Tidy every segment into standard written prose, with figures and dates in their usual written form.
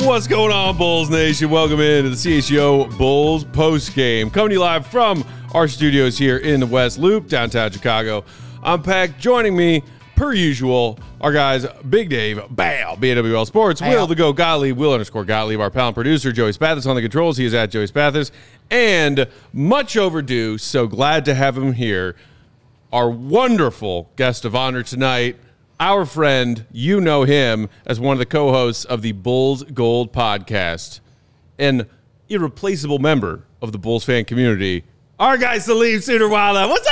What's going on, Bulls Nation? Welcome into the CHGO Bulls postgame. Coming to you live from our studios here in the West Loop, downtown Chicago. I'm Peck. Joining me, per usual, our guys, Big Dave, Bam, BNWL Sports, Will the Go Gottlieb, Will_Gottlieb, our pal and producer, Joey Spathis on the controls. He is at Joey Spathis. And much overdue, so glad to have him here, our wonderful guest of honor tonight, our friend, you know him as one of the co-hosts of the Bulls Gold podcast, an irreplaceable member of the Bulls fan community, our guy Salim Suderwala. What's up,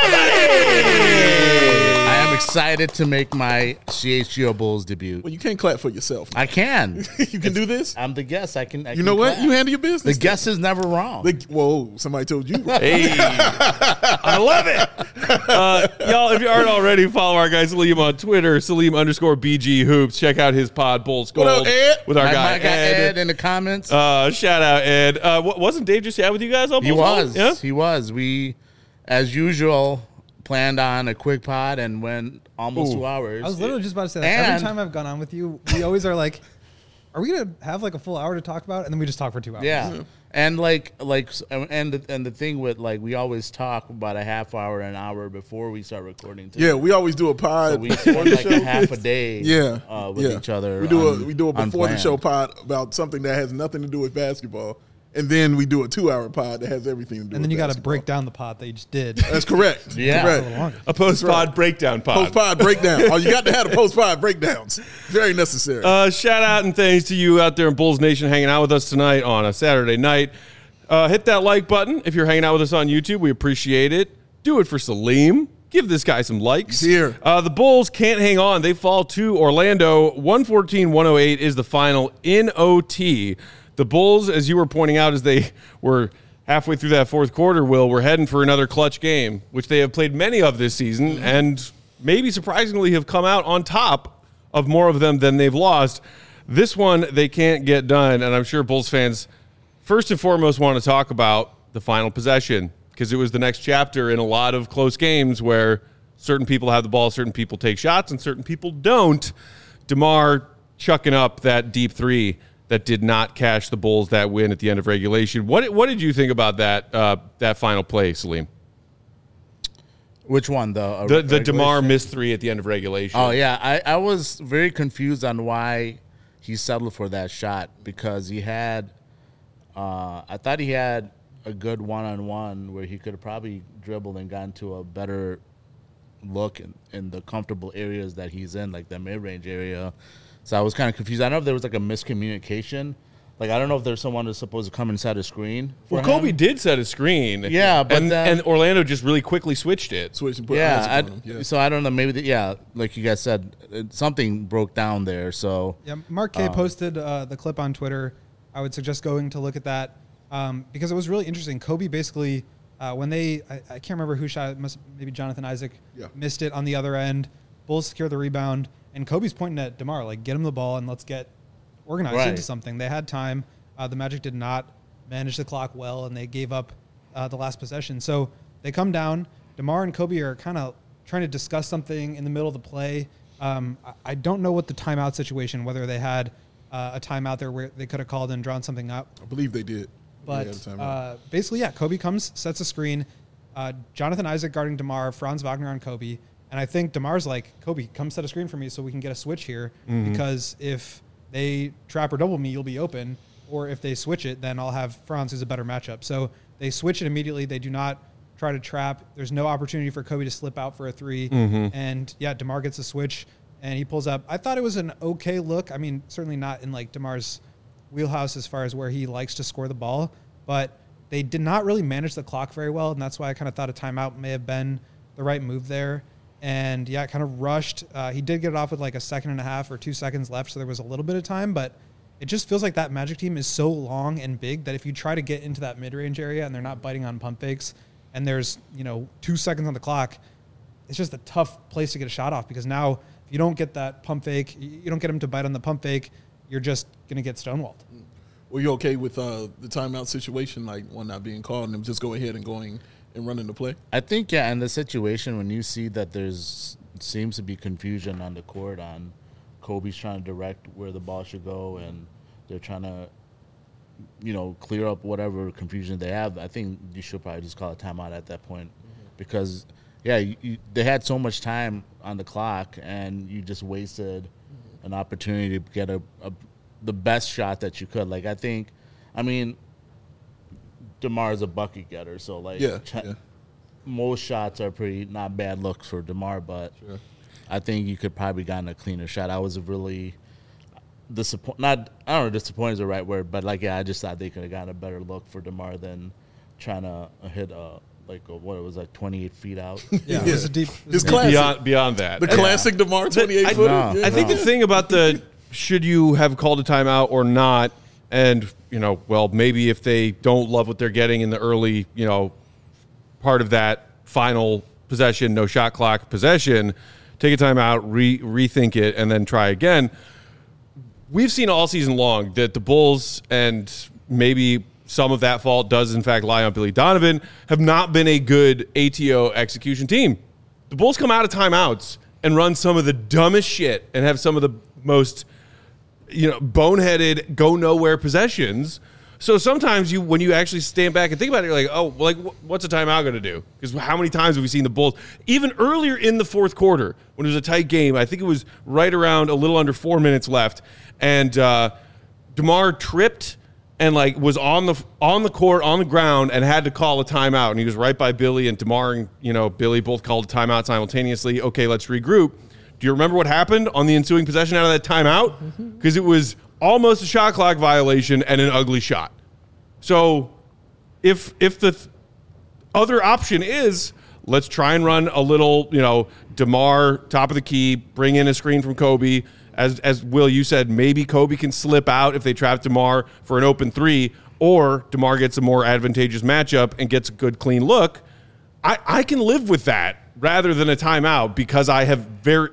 buddy? I am excited to make my CHGO Bulls debut. Well, you can't clap for yourself. I can. You can do this? I'm the guest. I can You know what? clap. You handle your business. The guest is never wrong. Whoa, somebody told you. Hey, I love it. Y'all, if you aren't already, follow our guy Salim on Twitter, Salim_BG Hoops. Check out his pod, Bulls Gold, What up, Ed? with our My guy Ed in the comments. Shout out, Ed. Wasn't Dave just chat with you guys on he Bulls Gold? was. Yeah? He was. We, as usual, planned on a quick pod and went almost 2 hours. I was literally just about to say that. And- Every time I've gone on with you, we always are like, are we going to have like a full hour to talk about? And then we just talk for 2 hours. Yeah. And and the thing with we always talk about a half hour, an hour before we start recording. Too. Yeah, we always do a pod. So we spend like a half a day. With yeah. each other. We do a before the unplanned. show pod about something that has nothing to do with basketball, and then we do a 2 hour pod that has everything to do. And with then you got to basketball. break down the pod that you just did. That's correct. Yeah. Correct. A post-pod breakdown pod. Post pod breakdown. Oh, you got to have the post pod breakdowns. Very necessary. Shout out and thanks to you out there in Bulls Nation hanging out with us tonight on a Saturday night. Hit that like button if you're hanging out with us on YouTube. We appreciate it. Do it for Salim. Give this guy some likes. Here. The Bulls can't hang on. They fall to Orlando. 114-108 is the final in OT. The Bulls, as you were pointing out, as they were halfway through that fourth quarter, Will, we're heading for another clutch game, which they have played many of this season, and maybe surprisingly have come out on top of more of them than they've lost. This one, they can't get done, and I'm sure Bulls fans first and foremost want to talk about the final possession, because it was the next chapter in a lot of close games where certain people have the ball, certain people take shots, and certain people don't. DeMar chucking up that deep three that did not cash the Bulls that win at the end of regulation. What did you think about that final play, Salim? Which one, The DeMar missed three at the end of regulation. Oh, yeah. I was very confused on why he settled for that shot, because he had I thought he had a good one-on-one where he could have probably dribbled and gotten to a better look in the comfortable areas that he's in, like the mid-range area. So I was kind of confused. I don't know if there was like a miscommunication. Like, I don't know if there's someone who's supposed to come inside a screen. Well, Kobe did set a screen. Yeah, but and Orlando just really quickly switched it. Switch and put Yeah, Isaac on him. so I don't know. Maybe, like you guys said, something broke down there. So Yeah, Mark K posted the clip on Twitter. I would suggest going to look at that because it was really interesting. Kobe basically, when I can't remember who shot it, maybe Jonathan Isaac missed it on the other end. Bulls secure the rebound, and Kobe's pointing at DeMar, like, get him the ball and let's get organized into something. They had time. The Magic did not manage the clock well, and they gave up the last possession. So they come down. DeMar and Kobe are kind of trying to discuss something in the middle of the play. I don't know what the timeout situation, whether they had a timeout there where they could have called and drawn something up. I believe they did. But basically, Kobe comes, sets a screen. Jonathan Isaac guarding DeMar, Franz Wagner on Kobe. And I think DeMar's like, Kobe, come set a screen for me so we can get a switch here. Because if they trap or double me, you'll be open. Or if they switch it, then I'll have Franz, who's a better matchup. So they switch it immediately. They do not try to trap. There's no opportunity for Kobe to slip out for a three. And, DeMar gets a switch, and he pulls up. I thought it was an okay look. I mean, certainly not in, like, DeMar's wheelhouse as far as where he likes to score the ball. But they did not really manage the clock very well, and that's why I kind of thought a timeout may have been the right move there. And, it kind of rushed. He did get it off with like a second and a half or 2 seconds left, so there was a little bit of time. But it just feels like that Magic team is so long and big that if you try to get into that mid-range area and they're not biting on pump fakes and there's, 2 seconds on the clock, it's just a tough place to get a shot off, because now if you don't get that pump fake, you don't get them to bite on the pump fake, you're just going to get stonewalled. Were you okay with the timeout situation, like one not being called and them just go ahead and going and running the play? I think, in the situation when you see that seems to be confusion on the court on Kobe's trying to direct where the ball should go and they're trying to, clear up whatever confusion they have, I think you should probably just call a timeout at that point, because they had so much time on the clock, and you just wasted an opportunity to get the best shot that you could. Like, DeMar is a bucket getter, so most shots are pretty not bad looks for DeMar, but I think you could probably gotten a cleaner shot. I was really disappointed. I don't know, disappointed is the right word, but I just thought they could have gotten a better look for DeMar than trying to hit what it was, 28 feet out. Yeah, it was a deep. It's classic. Beyond that. The classic DeMar 28 footer. I think the thing about the should you have called a timeout or not, and maybe if they don't love what they're getting in the early, part of that final possession, no shot clock possession, take a timeout, rethink it, and then try again. We've seen all season long that the Bulls, and maybe some of that fault does in fact lie on Billy Donovan, have not been a good ATO execution team. The Bulls come out of timeouts and run some of the dumbest shit and have some of the most boneheaded, go nowhere possessions. So sometimes when you actually stand back and think about it, you're like, oh, what's a timeout going to do? Because how many times have we seen the Bulls, even earlier in the fourth quarter, when it was a tight game, I think it was right around a little under 4 minutes left, and DeMar tripped and was on the court, on the ground, and had to call a timeout. And he was right by Billy, and DeMar and Billy both called a timeout simultaneously. Okay, let's regroup. Do you remember what happened on the ensuing possession out of that timeout? Because it was almost a shot clock violation and an ugly shot. So if the other option is let's try and run a little, DeMar top of the key, bring in a screen from Kobe. As Will, you said, maybe Kobe can slip out if they trap DeMar for an open three, or DeMar gets a more advantageous matchup and gets a good, clean look. I can live with that rather than a timeout, because I have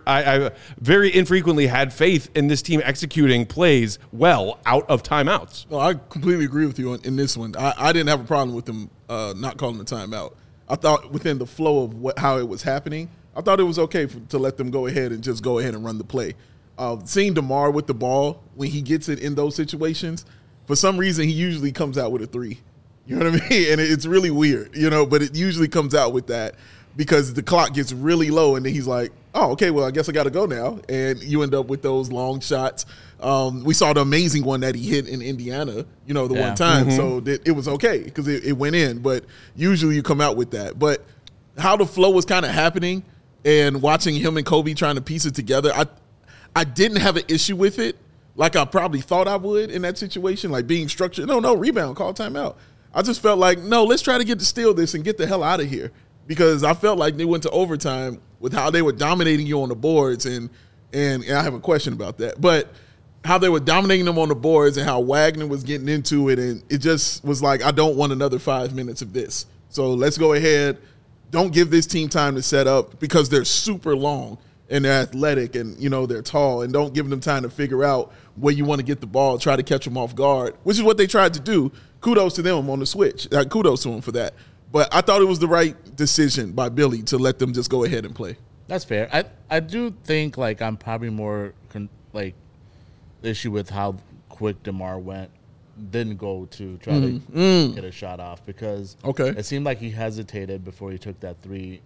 very infrequently had faith in this team executing plays well out of timeouts. No, I completely agree with you in this one. I didn't have a problem with them not calling the timeout. I thought within the flow of how it was happening, I thought it was okay to let them go ahead and just go ahead and run the play. Seeing DeMar with the ball, when he gets it in those situations, for some reason he usually comes out with a three. You know what I mean? And it's really weird, but it usually comes out with that, because the clock gets really low, and then he's like, oh, okay, well, I guess I got to go now. And you end up with those long shots. We saw the amazing one that he hit in Indiana, one time. Mm-hmm. So it was okay because it went in. But usually you come out with that. But how the flow was kind of happening and watching him and Kobe trying to piece it together, I didn't have an issue with it like I probably thought I would in that situation, like being structured. No, rebound, call timeout. I just felt like, no, let's try to steal this and get the hell out of here. Because I felt like they went to overtime with how they were dominating you on the boards, and I have a question about that. But how they were dominating them on the boards and how Wagner was getting into it, and it just was like, I don't want another 5 minutes of this. So let's go ahead. Don't give this team time to set up, because they're super long and they're athletic and, they're tall, and don't give them time to figure out where you want to get the ball, try to catch them off guard, which is what they tried to do. Kudos to them on the switch. Kudos to them for that. But I thought it was the right decision by Billy to let them just go ahead and play. That's fair. I do think I'm probably more the issue with how quick DeMar didn't go to try to get a shot off, because it seemed like he hesitated before he took that three.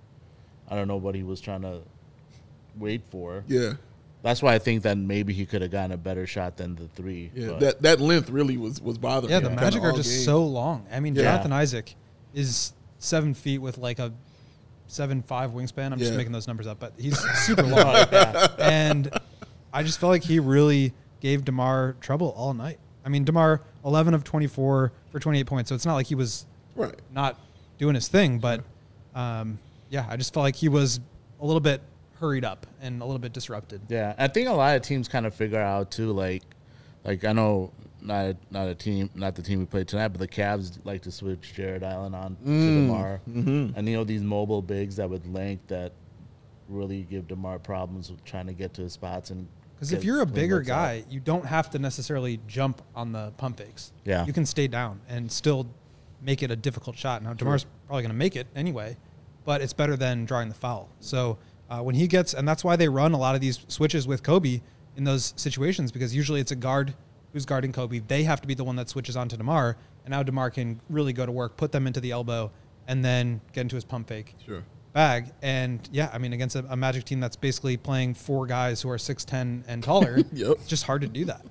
I don't know what he was trying to wait for. Yeah. That's why I think that maybe he could have gotten a better shot than the three. Yeah, that length really was bothering me. Yeah, the Magic are just so long. I mean, Jonathan Isaac is 7 feet with a 7'5" wingspan. I'm just making those numbers up, but he's super long. And I just felt like he really gave DeMar trouble all night. I mean, DeMar, 11 of 24 for 28 points, so it's not like he was not doing his thing, but I just felt like he was a little bit hurried up and a little bit disrupted. Yeah, I think a lot of teams kind of figure out too, I know not the team we played tonight, but the Cavs like to switch Jared Allen on to DeMar. Mm-hmm. And these mobile bigs that with length that really give DeMar problems with trying to get to his spots. And because if you're a bigger guy, you don't have to necessarily jump on the pump fakes. Yeah, you can stay down and still make it a difficult shot. Now DeMar's probably going to make it anyway, but it's better than drawing the foul. So when he gets, and that's why they run a lot of these switches with Kobe in those situations, because usually it's a guard who's guarding Kobe. They have to be the one that switches on to DeMar, and now DeMar can really go to work, put them into the elbow, and then get into his pump fake bag. And, yeah, I mean, against a Magic team that's basically playing 4 guys who are 6'10" and taller, it's just hard to do that.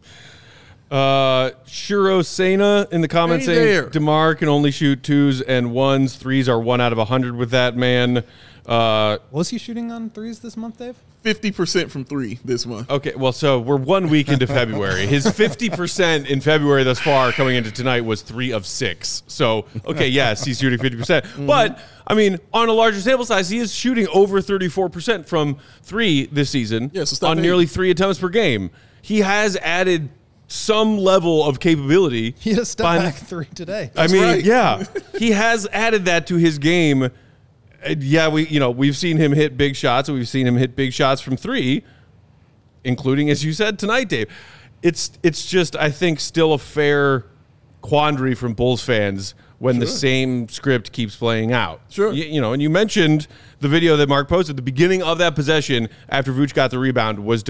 Shiro Sena in the comments saying DeMar can only shoot 2s and 1s. 3s are 1 out of 100 with that man. Was he shooting on 3s this month, Dave? 50% from 3 this month. Okay, well, so we're 1 week into February. His 50% in February thus far coming into tonight was 3 of 6. So, okay, yes, he's shooting 50%. But, I mean, on a larger sample size, he is shooting over 34% from 3 this season on nearly 3 attempts per game. He has added some level of capability. He had a step back 3 today. I mean, yeah, he has added that to his game. Yeah, we've seen him hit big shots, and we've seen him hit big shots from 3, including, as you said tonight, Dave. It's just, I think, still a fair quandary from Bulls fans when the same script keeps playing out. And you mentioned the video that Mark posted at the beginning of that possession after Vooch got the rebound was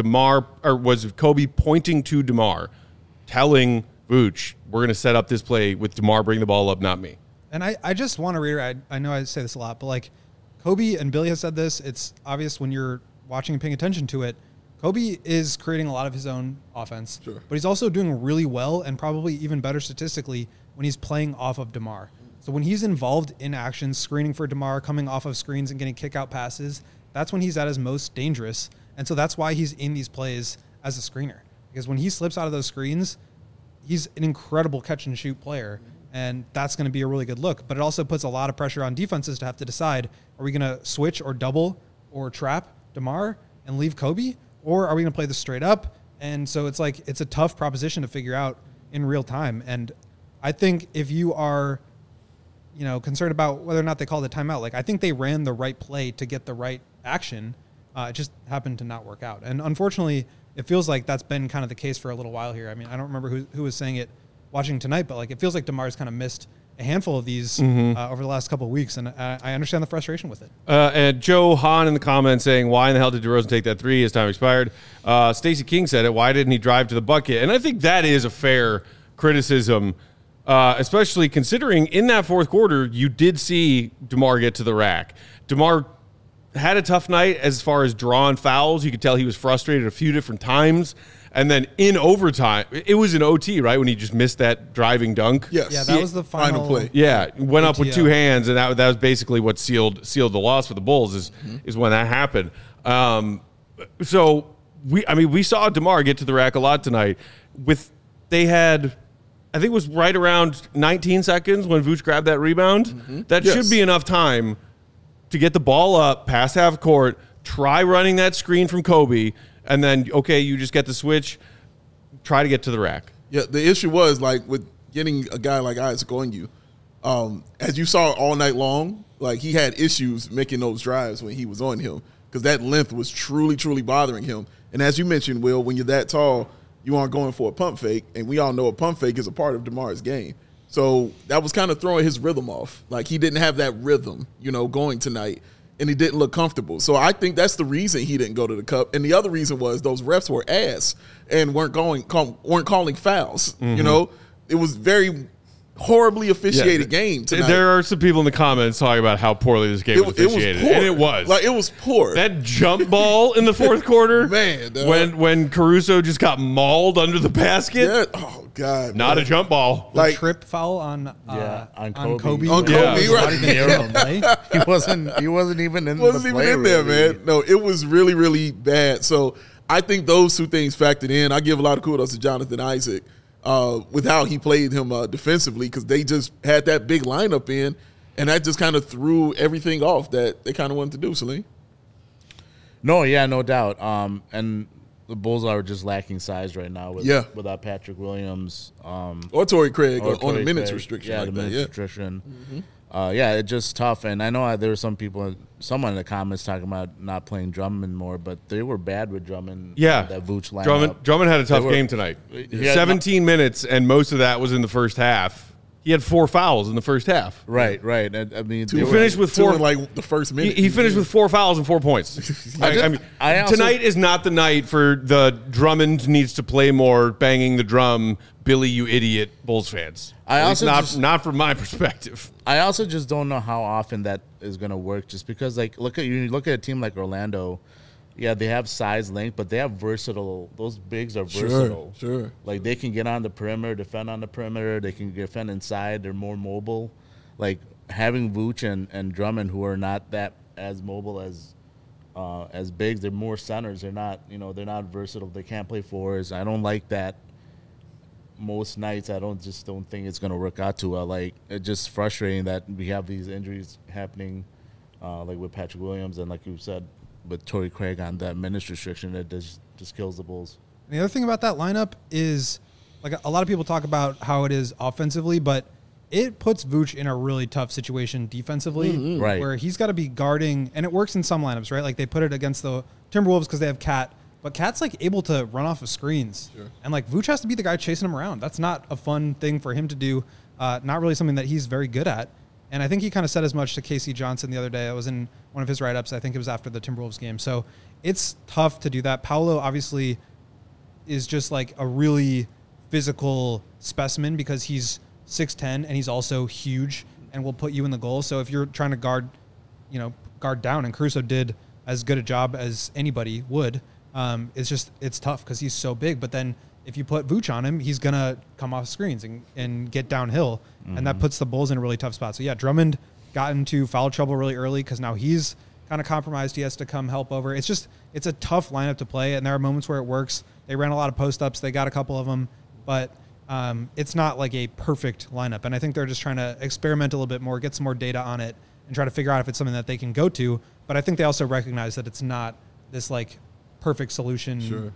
Kobe pointing to DeMar, telling Vooch, we're going to set up this play with DeMar, bring the ball up, not me. And I just want to reiterate, I know I say this a lot, but like Kobe and Billy has said this, it's obvious when you're watching and paying attention to it, Kobe is creating a lot of his own offense, but he's also doing really well and probably even better statistically when he's playing off of DeMar. So when he's involved in action, screening for DeMar, coming off of screens and getting kick-out passes, that's when he's at his most dangerous. And so that's why he's in these plays as a screener. Because when he slips out of those screens, he's an incredible catch-and-shoot player. And that's going to be a really good look. But it also puts a lot of pressure on defenses to have to decide, are we going to switch or double or trap DeMar and leave Kobe? Or are we going to play this straight up? And so it's like, it's a tough proposition to figure out in real time. And I think if you are, concerned about whether or not they call the timeout, like I think they ran the right play to get the right action. It just happened to not work out. And unfortunately, it feels like that's been kind of the case for a little while here. I mean, I don't remember who was saying it watching tonight, but like it feels like DeMar's kind of missed a handful of these over the last couple of weeks, and I understand the frustration with it. And Joe Hahn in the comments saying, why in the hell did DeRozan take that 3? His time expired. Stacey King said it, why didn't he drive to the bucket? And I think that is a fair criticism, especially considering in that fourth quarter, you did see DeMar get to the rack. DeMar had a tough night as far as drawing fouls. You could tell he was frustrated a few different times. And then in overtime, it was an OT, right, when he just missed that driving dunk? Yes. Yeah, that was the final play. Yeah, went up with 2 hands, and that was basically what sealed the loss for the Bulls is when that happened. So we saw DeMar get to the rack a lot tonight. They had, I think it was right around 19 seconds when Vooch grabbed that rebound. That should be enough time to get the ball up past half court, try running that screen from Kobe, and then, okay, you just get the switch, try to get to the rack. Yeah, the issue was, like, with getting a guy like Isaac on you, as you saw all night long, like, he had issues making those drives when he was on him because that length was truly, truly bothering him. And as you mentioned, Will, when you're that tall, you aren't going for a pump fake, and we all know a pump fake is a part of DeMar's game. So that was kind of throwing his rhythm off. Like, he didn't have that rhythm, going tonight. And he didn't look comfortable. So I think that's the reason he didn't go to the cup. And the other reason was those refs were ass and weren't calling fouls. It was very horribly officiated game tonight. There are some people in the comments talking about how poorly this game was officiated. It was poor. And it was. Like, it was poor. That jump ball in the fourth quarter, man, when Caruso just got mauled under the basket. Yeah. Oh, God. Not a jump ball. Like trip foul on Kobe. On Kobe, right. He wasn't even in there, man. No, it was really, really bad. So I think those two things factored in. I give a lot of kudos to Jonathan Isaac with how he played him defensively because they just had that big lineup in, and that just kind of threw everything off that they kind of wanted to do, Salim. No, yeah, no doubt. And the Bulls are just lacking size right now without Patrick Williams. Or Torrey Craig on the minutes restriction. Yeah, the minutes restriction. It's just tough. And I know there were someone in the comments talking about not playing Drummond more, but they were bad with Drummond. Yeah. That Vooch lineup. Drummond had a tough game tonight. 17 minutes, and most of that was in the first half. he had 4 fouls in the first half. Right. And, I mean, He finished with 4 in like the first minute. He finished with 4 fouls and 4 points. I also- Tonight is not the night for the Drummond needs to play more, banging the drum, Billy, you idiot, Bulls fans. At least not from my perspective. I also just don't know how often that is going to work. Just because, like, look at a team like Orlando. Yeah, they have size, length, but they have versatile. Those bigs are versatile. Sure. Like, they can get on the perimeter, defend on the perimeter. They can defend inside. They're more mobile. Like, having Vooch and Drummond, who are not that as mobile as bigs, they're more centers. They're not versatile. They can't play fours. I don't like that. Most nights, I don't think it's going to work out too well. Like, it's just frustrating that we have these injuries happening, like with Patrick Williams and, like you said, with Torrey Craig on that minutes restriction that just kills the Bulls. And the other thing about that lineup is, like, a lot of people talk about how it is offensively, but it puts Vooch in a really tough situation defensively, Right. where he's got to be guarding, and it works in some lineups, right? Like, they put it against the Timberwolves because they have Cat, but Cat's, like, able to run off of screens. Sure. And, like, Vooch has to be the guy chasing him around. That's not a fun thing for him to do, not really something that he's very good at. And I think he kind of said as much to Casey Johnson the other day. It was in one of his write-ups. I think it was after the Timberwolves game. So it's tough to do that. Paolo obviously is just like a really physical specimen because he's 6'10", and he's also huge and will put you in the goal. So if you're trying to guard down, and Caruso did as good a job as anybody would, it's tough because he's so big. But then if you put Vooch on him, he's going to come off screens and get downhill, and that puts the Bulls in a really tough spot. So, yeah, Drummond got into foul trouble really early because now he's kind of compromised. He has to come help over. It's a tough lineup to play, and there are moments where it works. They ran a lot of post-ups. They got a couple of them, but it's not like a perfect lineup. And I think they're just trying to experiment a little bit more, get some more data on it, and try to figure out if it's something that they can go to. But I think they also recognize that it's not this, like, perfect solution,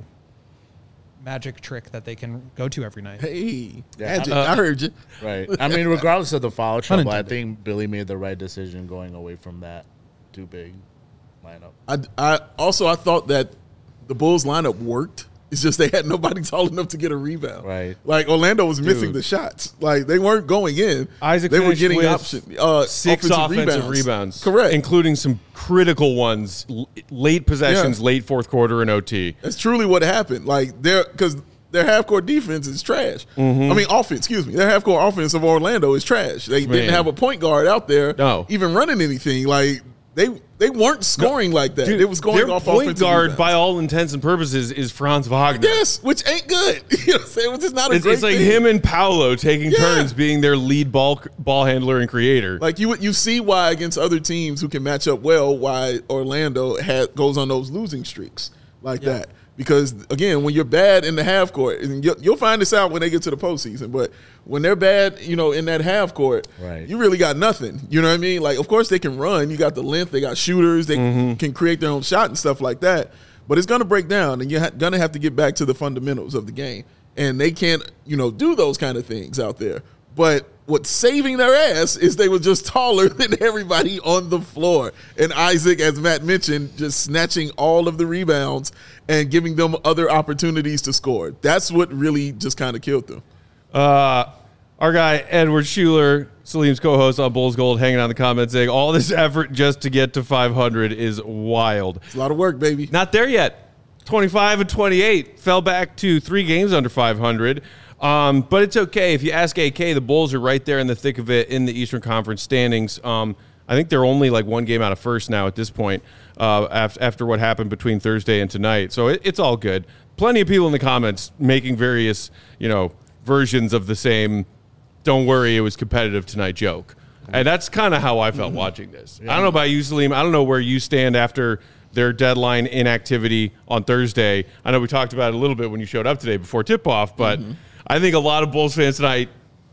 magic trick that they can go to every night. Hey, Yeah, magic, I heard you. Right. I mean, regardless of the foul trouble, I Unintended. think Billy made the right decision going away from that too big lineup. I thought that the Bulls lineup worked. It's just they had nobody tall enough to get a rebound. Right. Like, Orlando was missing the shots. Like, they weren't going in. Isaac they were finished getting with 6 offensive rebounds. Correct. Including some critical ones, late possessions, late fourth quarter and OT. That's truly what happened. Like, because their half-court defense is trash. Mm-hmm. I mean, offense, excuse me. Their half-court offense of Orlando is trash. They didn't have a point guard out there even running anything. Like, they weren't scoring like that. Dude, it was going their off point offensive guard, rebounds. by all intents and purposes, is Franz Wagner. Yes, which ain't good. You know what I'm saying? Which is not a great It's like thing. him and Paolo taking turns being their lead ball handler and creator. Like, you see why against other teams who can match up well, why Orlando goes on those losing streaks like that. Because, again, when you're bad in the half court, and you'll find this out when they get to the postseason, but when they're bad, in that half court, you really got nothing. You know what I mean? Like, of course they can run. You got the length. They got shooters. They can create their own shot and stuff like that. But it's going to break down, and you're going to have to get back to the fundamentals of the game. And they can't, do those kind of things out there. But what's saving their ass is they were just taller than everybody on the floor. And Isaac, as Matt mentioned, just snatching all of the rebounds and giving them other opportunities to score. That's what really just kind of killed them. Our guy, Edward Schuler, Salim's co-host on Bulls Gold, hanging out in the comments saying, all this effort just to get to 500 is wild. It's a lot of work, baby. Not there yet. 25 and 28. Fell back to 3 games under 500. But it's okay. If you ask AK, the Bulls are right there in the thick of it in the Eastern Conference standings. I think they're only like 1 game out of first now at this point after what happened between Thursday and tonight. So it's all good. Plenty of people in the comments making various, versions of the same, don't worry, it was competitive tonight joke. And that's kind of how I felt watching this. I don't know about you, Salim. I don't know where you stand after their deadline inactivity on Thursday. I know we talked about it a little bit when you showed up today before tip-off, but I think a lot of Bulls fans tonight,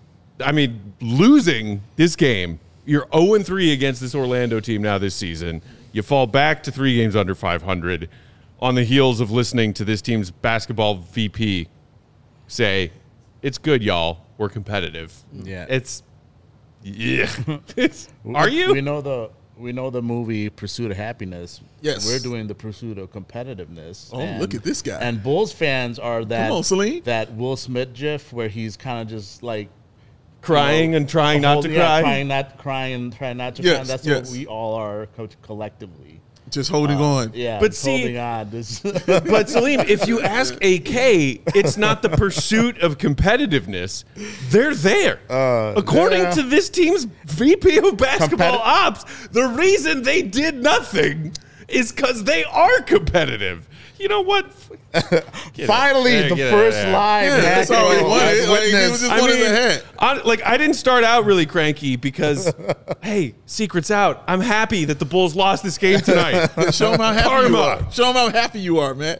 losing this game, you're 0-3 against this Orlando team now this season. You fall back to 3 games under 500 on the heels of listening to this team's basketball VP say, it's good, y'all. We're competitive. Yeah. Are you? We know the movie Pursuit of Happiness. Yes. We're doing the Pursuit of Competitiveness. Oh, look at this guy. And Bulls fans are that Come on, Salim. that Will Smith gif where he's kind of just like crying and trying not to cry. Trying not to cry. Yes, That's yes. what we all are, coach, collectively. Just holding on. Yeah, But just see- holding on. This But Salim, if you ask AK, it's not the pursuit of competitiveness. They're there. According to this team's VP of basketball ops, the reason they did nothing is because they are competitive. You know what? finally the get first out of there. live Yeah, that's all he Echo wanted. has Like, he was witnessed. just I wanted mean, the hat. I didn't start out really cranky because, hey, secret's out. I'm happy that the Bulls lost this game tonight. Show him how happy you Karma. are. Show him how happy you are, man.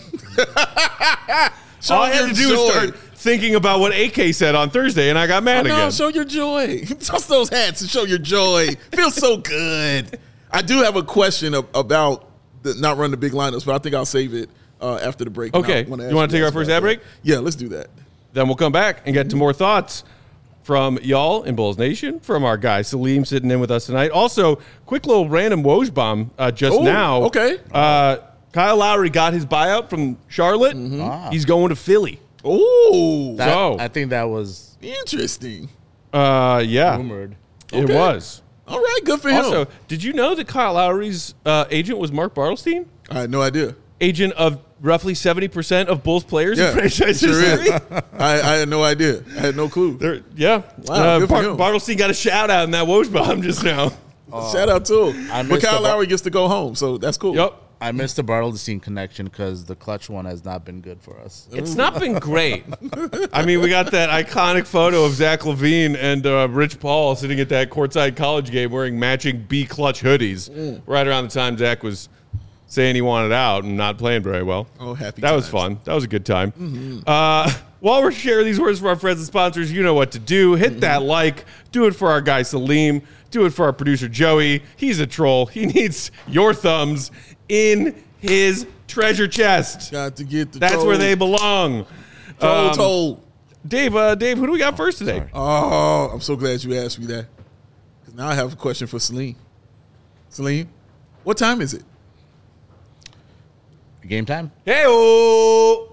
Show All I him had your to do joy. was start thinking about what AK said on Thursday, and I got mad No, again. show your joy. Toss those hats and show your joy. Feels so good. I do have a question about not running the big lineups, but I think I'll save it after the break. Okay. And I wanna You ask wanna take guys our first about ad break? that. Yeah, let's do that. Then we'll come back and get to more thoughts from y'all in Bulls Nation, from our guy Salim sitting in with us tonight. Also, quick little random Woj bomb just Oh, now. okay. Kyle Lowry got his buyout from Charlotte. He's going to Philly. Oh, So- I think that was interesting. Yeah, rumored. it Okay. was. All right, good for him. Also, did you know that Kyle Lowry's agent was Mark Bartelstein? I had no idea. Agent of roughly 70% of Bulls players in Yeah, franchise sure history. is. I had no idea. I had no clue. Yeah. Wow, good for him. Bartelstein got a shout out in that Woj bomb just now. Shout out to him. I But missed Kyle the- Lowry gets to go home, so that's cool. Yep. I missed the Bartelstein connection because the clutch one has not been good for us. It's not been great. I mean, we got that iconic photo of Zach LaVine and Rich Paul sitting at that courtside college game wearing matching B clutch hoodies right around the time Zach was saying he wanted out and not playing very well. Oh, happy That was times. fun. That was a good time. While we're sharing these words for our friends and sponsors, you know what to do. Hit that like. Do it for our guy Salim. Do it for our producer Joey. He's a troll. He needs your thumbs in his treasure chest. Got to get the That's troll. where they belong. Told. Dave, who do we got first today? Oh, I'm so glad you asked me that. 'Cause now I have a question for Salim. Salim, what time is it? Game time? Hey-oh!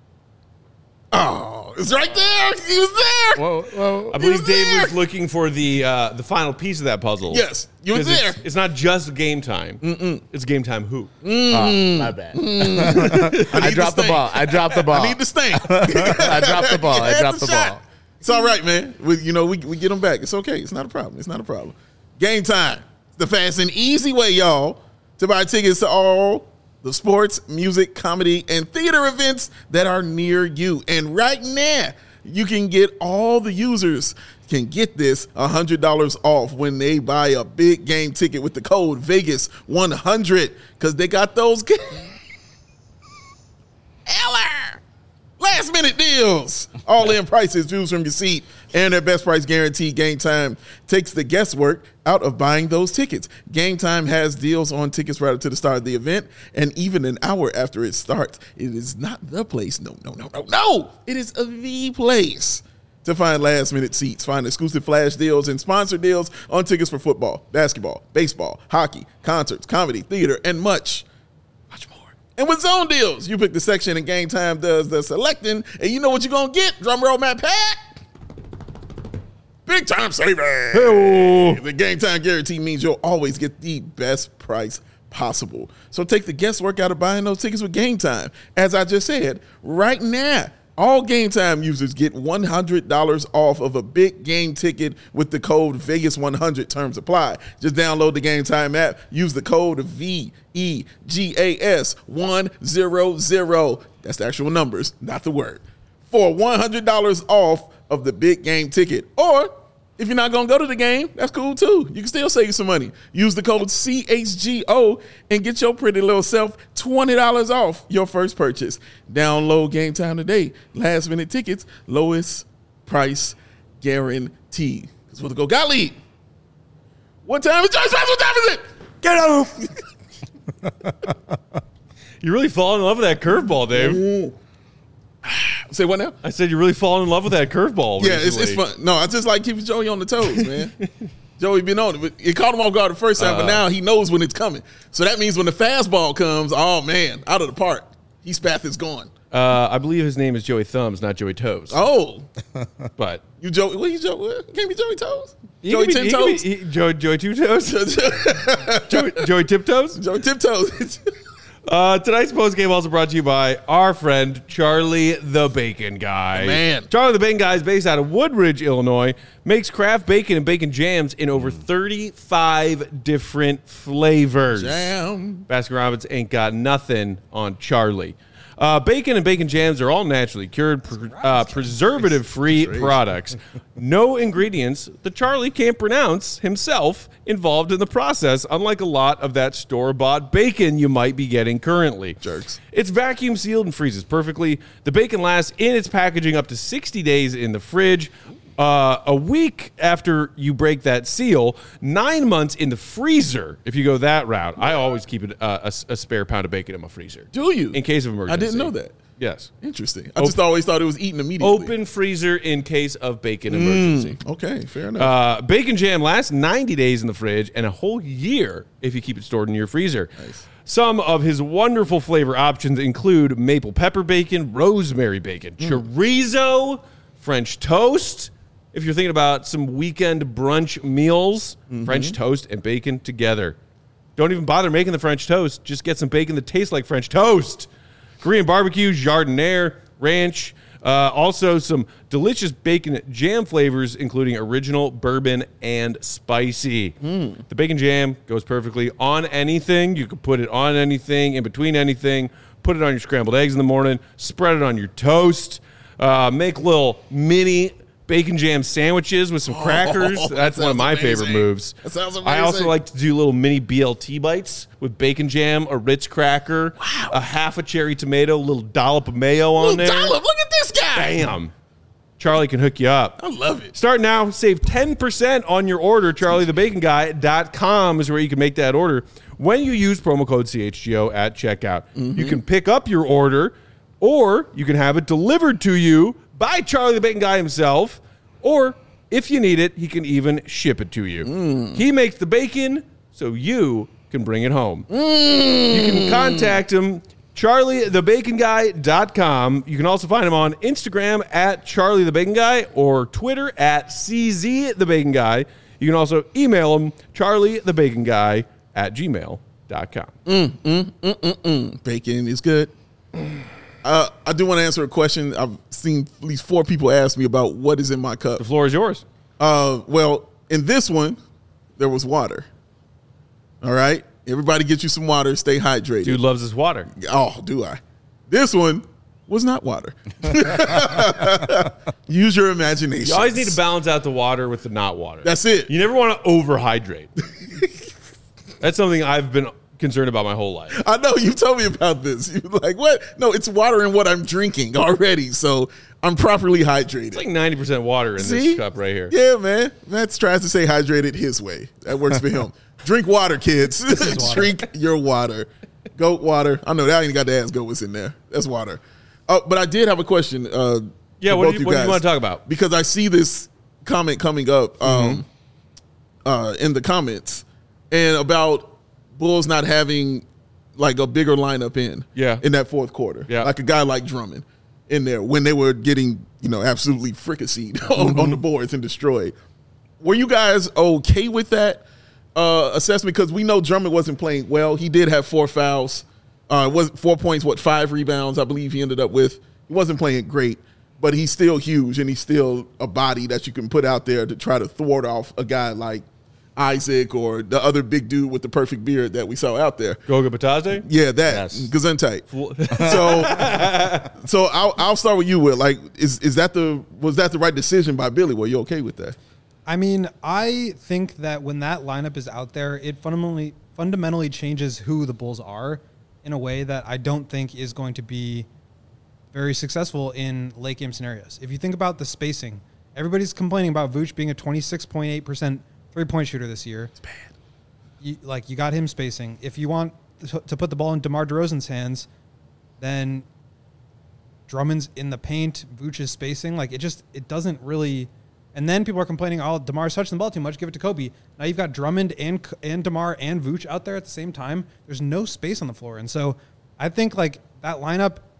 Oh, it's right there. He was there. Whoa. I believe was Dave there. was looking for the final piece of that puzzle. Yes, you was 'Cause there. It's not just game time. It's game time who? My bad. I dropped the ball. I dropped the ball. I need the stamp. I dropped the ball. You I had dropped the shot. ball. It's all right, man. We get them back. It's okay. It's not a problem. It's not a problem. Game time. The fast and easy way, y'all, to buy tickets to all the sports, music, comedy, and theater events that are near you. And right now, you can get all the users can get this $100 off when they buy a big game ticket with the code Vegas100 because they got those Eller last minute deals. All in prices, views from your seat, and their best price guarantee. Game Time takes the guesswork out of buying those tickets. Game Time has deals on tickets right up to the start of the event and even an hour after it starts. It is not the place. No. It is the place to find last minute seats. Find exclusive flash deals and sponsor deals on tickets for football, basketball, baseball, hockey, concerts, comedy, theater, and much more. And with zone deals, you pick the section and Game Time does the selecting, and you know what you're going to get. Drum roll, Matt Pat. Big time savings. The Game Time guarantee means you'll always get the best price possible. So take the guesswork out of buying those tickets with Game Time. As I just said, right now, all Game Time users get $100 off of a big game ticket with the code Vegas100. Terms apply. Just download the Game Time app. Use the code VEGAS100. That's the actual numbers, not the word. For $100 off of the big game ticket. Or if you're not going to go to the game, that's cool too. You can still save some money. Use the code CHGO and get your pretty little self $20 off your first purchase. Download Game Time today. Last minute tickets, lowest price guarantee. Because we'll go Gottlieb. What time is Joyce? What time is it? Get out! You really fall in love with that curveball, Dave. Say what now? I said you really fall in love with that curveball. Yeah, it's recently. fun. No, I just like keeping Joey on the toes, man. Joey been on it. But it caught him off guard the first time, but now he knows when it's coming. So that means when the fastball comes, oh, man, out of the park. His path is gone. I believe his name is Joey Thumbs, not Joey Toes. Oh, But you Joey? What you Joey? Can't be Joey Toes. he Joey could be- Ten he could Toes. be- Joey Two Toes? Joey Tiptoes? Joey Tiptoes. Tonight's post game also brought to you by our friend Charlie the Bacon Guy. Man. Charlie the Bacon Guy is based out of Woodridge, Illinois. Makes craft bacon and bacon jams in over 35 different flavors. Damn. Baskin-Robbins ain't got nothing on Charlie. Bacon and bacon jams are all naturally cured, preservative-free products. No ingredients that Charlie can't pronounce himself involved in the process, unlike a lot of that store-bought bacon you might be getting currently. Jerks. It's vacuum sealed and freezes perfectly. The bacon lasts in its packaging up to 60 days in the fridge. A week after you break that seal, 9 months in the freezer. If you go that route, I always keep a spare pound of bacon in my freezer. Do you? In case of emergency. I didn't know that. Yes. Interesting. I just always thought it was eaten immediately. Open freezer in case of bacon emergency. Okay, fair enough. Bacon jam lasts 90 days in the fridge and a whole year if you keep it stored in your freezer. Nice. Some of his wonderful flavor options include maple pepper bacon, rosemary bacon, chorizo, French toast. If you're thinking about some weekend brunch meals, French toast and bacon together. Don't even bother making the French toast. Just get some bacon that tastes like French toast. Korean barbecue, jardiniere, ranch. Also some delicious bacon jam flavors, including original, bourbon, and spicy. The bacon jam goes perfectly on anything. You can put it on anything, in between anything. Put it on your scrambled eggs in the morning. Spread it on your toast. Make little mini bacon jam sandwiches with some crackers. That's one of my favorite moves. That sounds I also amazing. like to do little mini BLT bites with bacon jam, a Ritz cracker, a half a cherry tomato, a little dollop of mayo on there. Dollop, look at this guy. Bam. Charlie can hook you up. I love it. Start now. Save 10% on your order. CharlieTheBaconGuy.com is where you can make that order. When you use promo code CHGO at checkout, you can pick up your order, or you can have it delivered to you by Charlie the Bacon Guy himself, or if you need it, he can even ship it to you. He makes the bacon so you can bring it home. You can contact him, CharlieTheBaconGuy.com. You can also find him on Instagram at CharlieTheBaconGuy or Twitter at CZTheBaconGuy. You can also email him, CharlieTheBaconGuy at gmail.com. Bacon is good. I do want to answer a question. I've seen at least 4 people ask me about what is in my cup. The floor is yours. Well, in this one, there was water. All right? Everybody get you some water. Stay hydrated. Dude loves his water. Oh, do I? This one was not water. Use your imagination. You always need to balance out the water with the not water. That's it. You never want to overhydrate. That's something I've been concerned about my whole life. I know you told me about this. You're like, what? No, it's water in what I'm drinking already, so I'm properly hydrated. It's like 90% water in See? this cup right here. Yeah, man. Matt tries to say hydrated his way. That works for him. Drink water, kids. Drink your water. Goat water. I know that I ain't got to ask goat what's in there. That's water. But I did have a question. Yeah, for what both do you want to talk about? Because I see this comment coming up in the comments and about Bulls not having like a bigger lineup in that fourth quarter. Yeah. Like a guy like Drummond in there when they were getting, absolutely fricasseed on the boards and destroyed. Were you guys okay with that assessment? Because we know Drummond wasn't playing well. He did have 4 fouls. Was 4 points, 5 rebounds, I believe he ended up with. He wasn't playing great, but he's still huge and he's still a body that you can put out there to try to thwart off a guy like Isaac or the other big dude with the perfect beard that we saw out there. Goga Batadze? Yeah, that. Yes. Gesundheit. So I'll start with you, Will. Like, was that the right decision by Billy? Were you okay with that? I mean, I think that when that lineup is out there, it fundamentally changes who the Bulls are in a way that I don't think is going to be very successful in late game scenarios. If you think about the spacing, everybody's complaining about Vooch being a 26.8% three-point shooter this year. It's bad. You got him spacing. If you want to put the ball in DeMar DeRozan's hands, then Drummond's in the paint, Vooch is spacing. It doesn't really. And then people are complaining, DeMar's touching the ball too much, give it to Kobe. Now you've got Drummond and DeMar and Vooch out there at the same time. There's no space on the floor. And so I think that lineup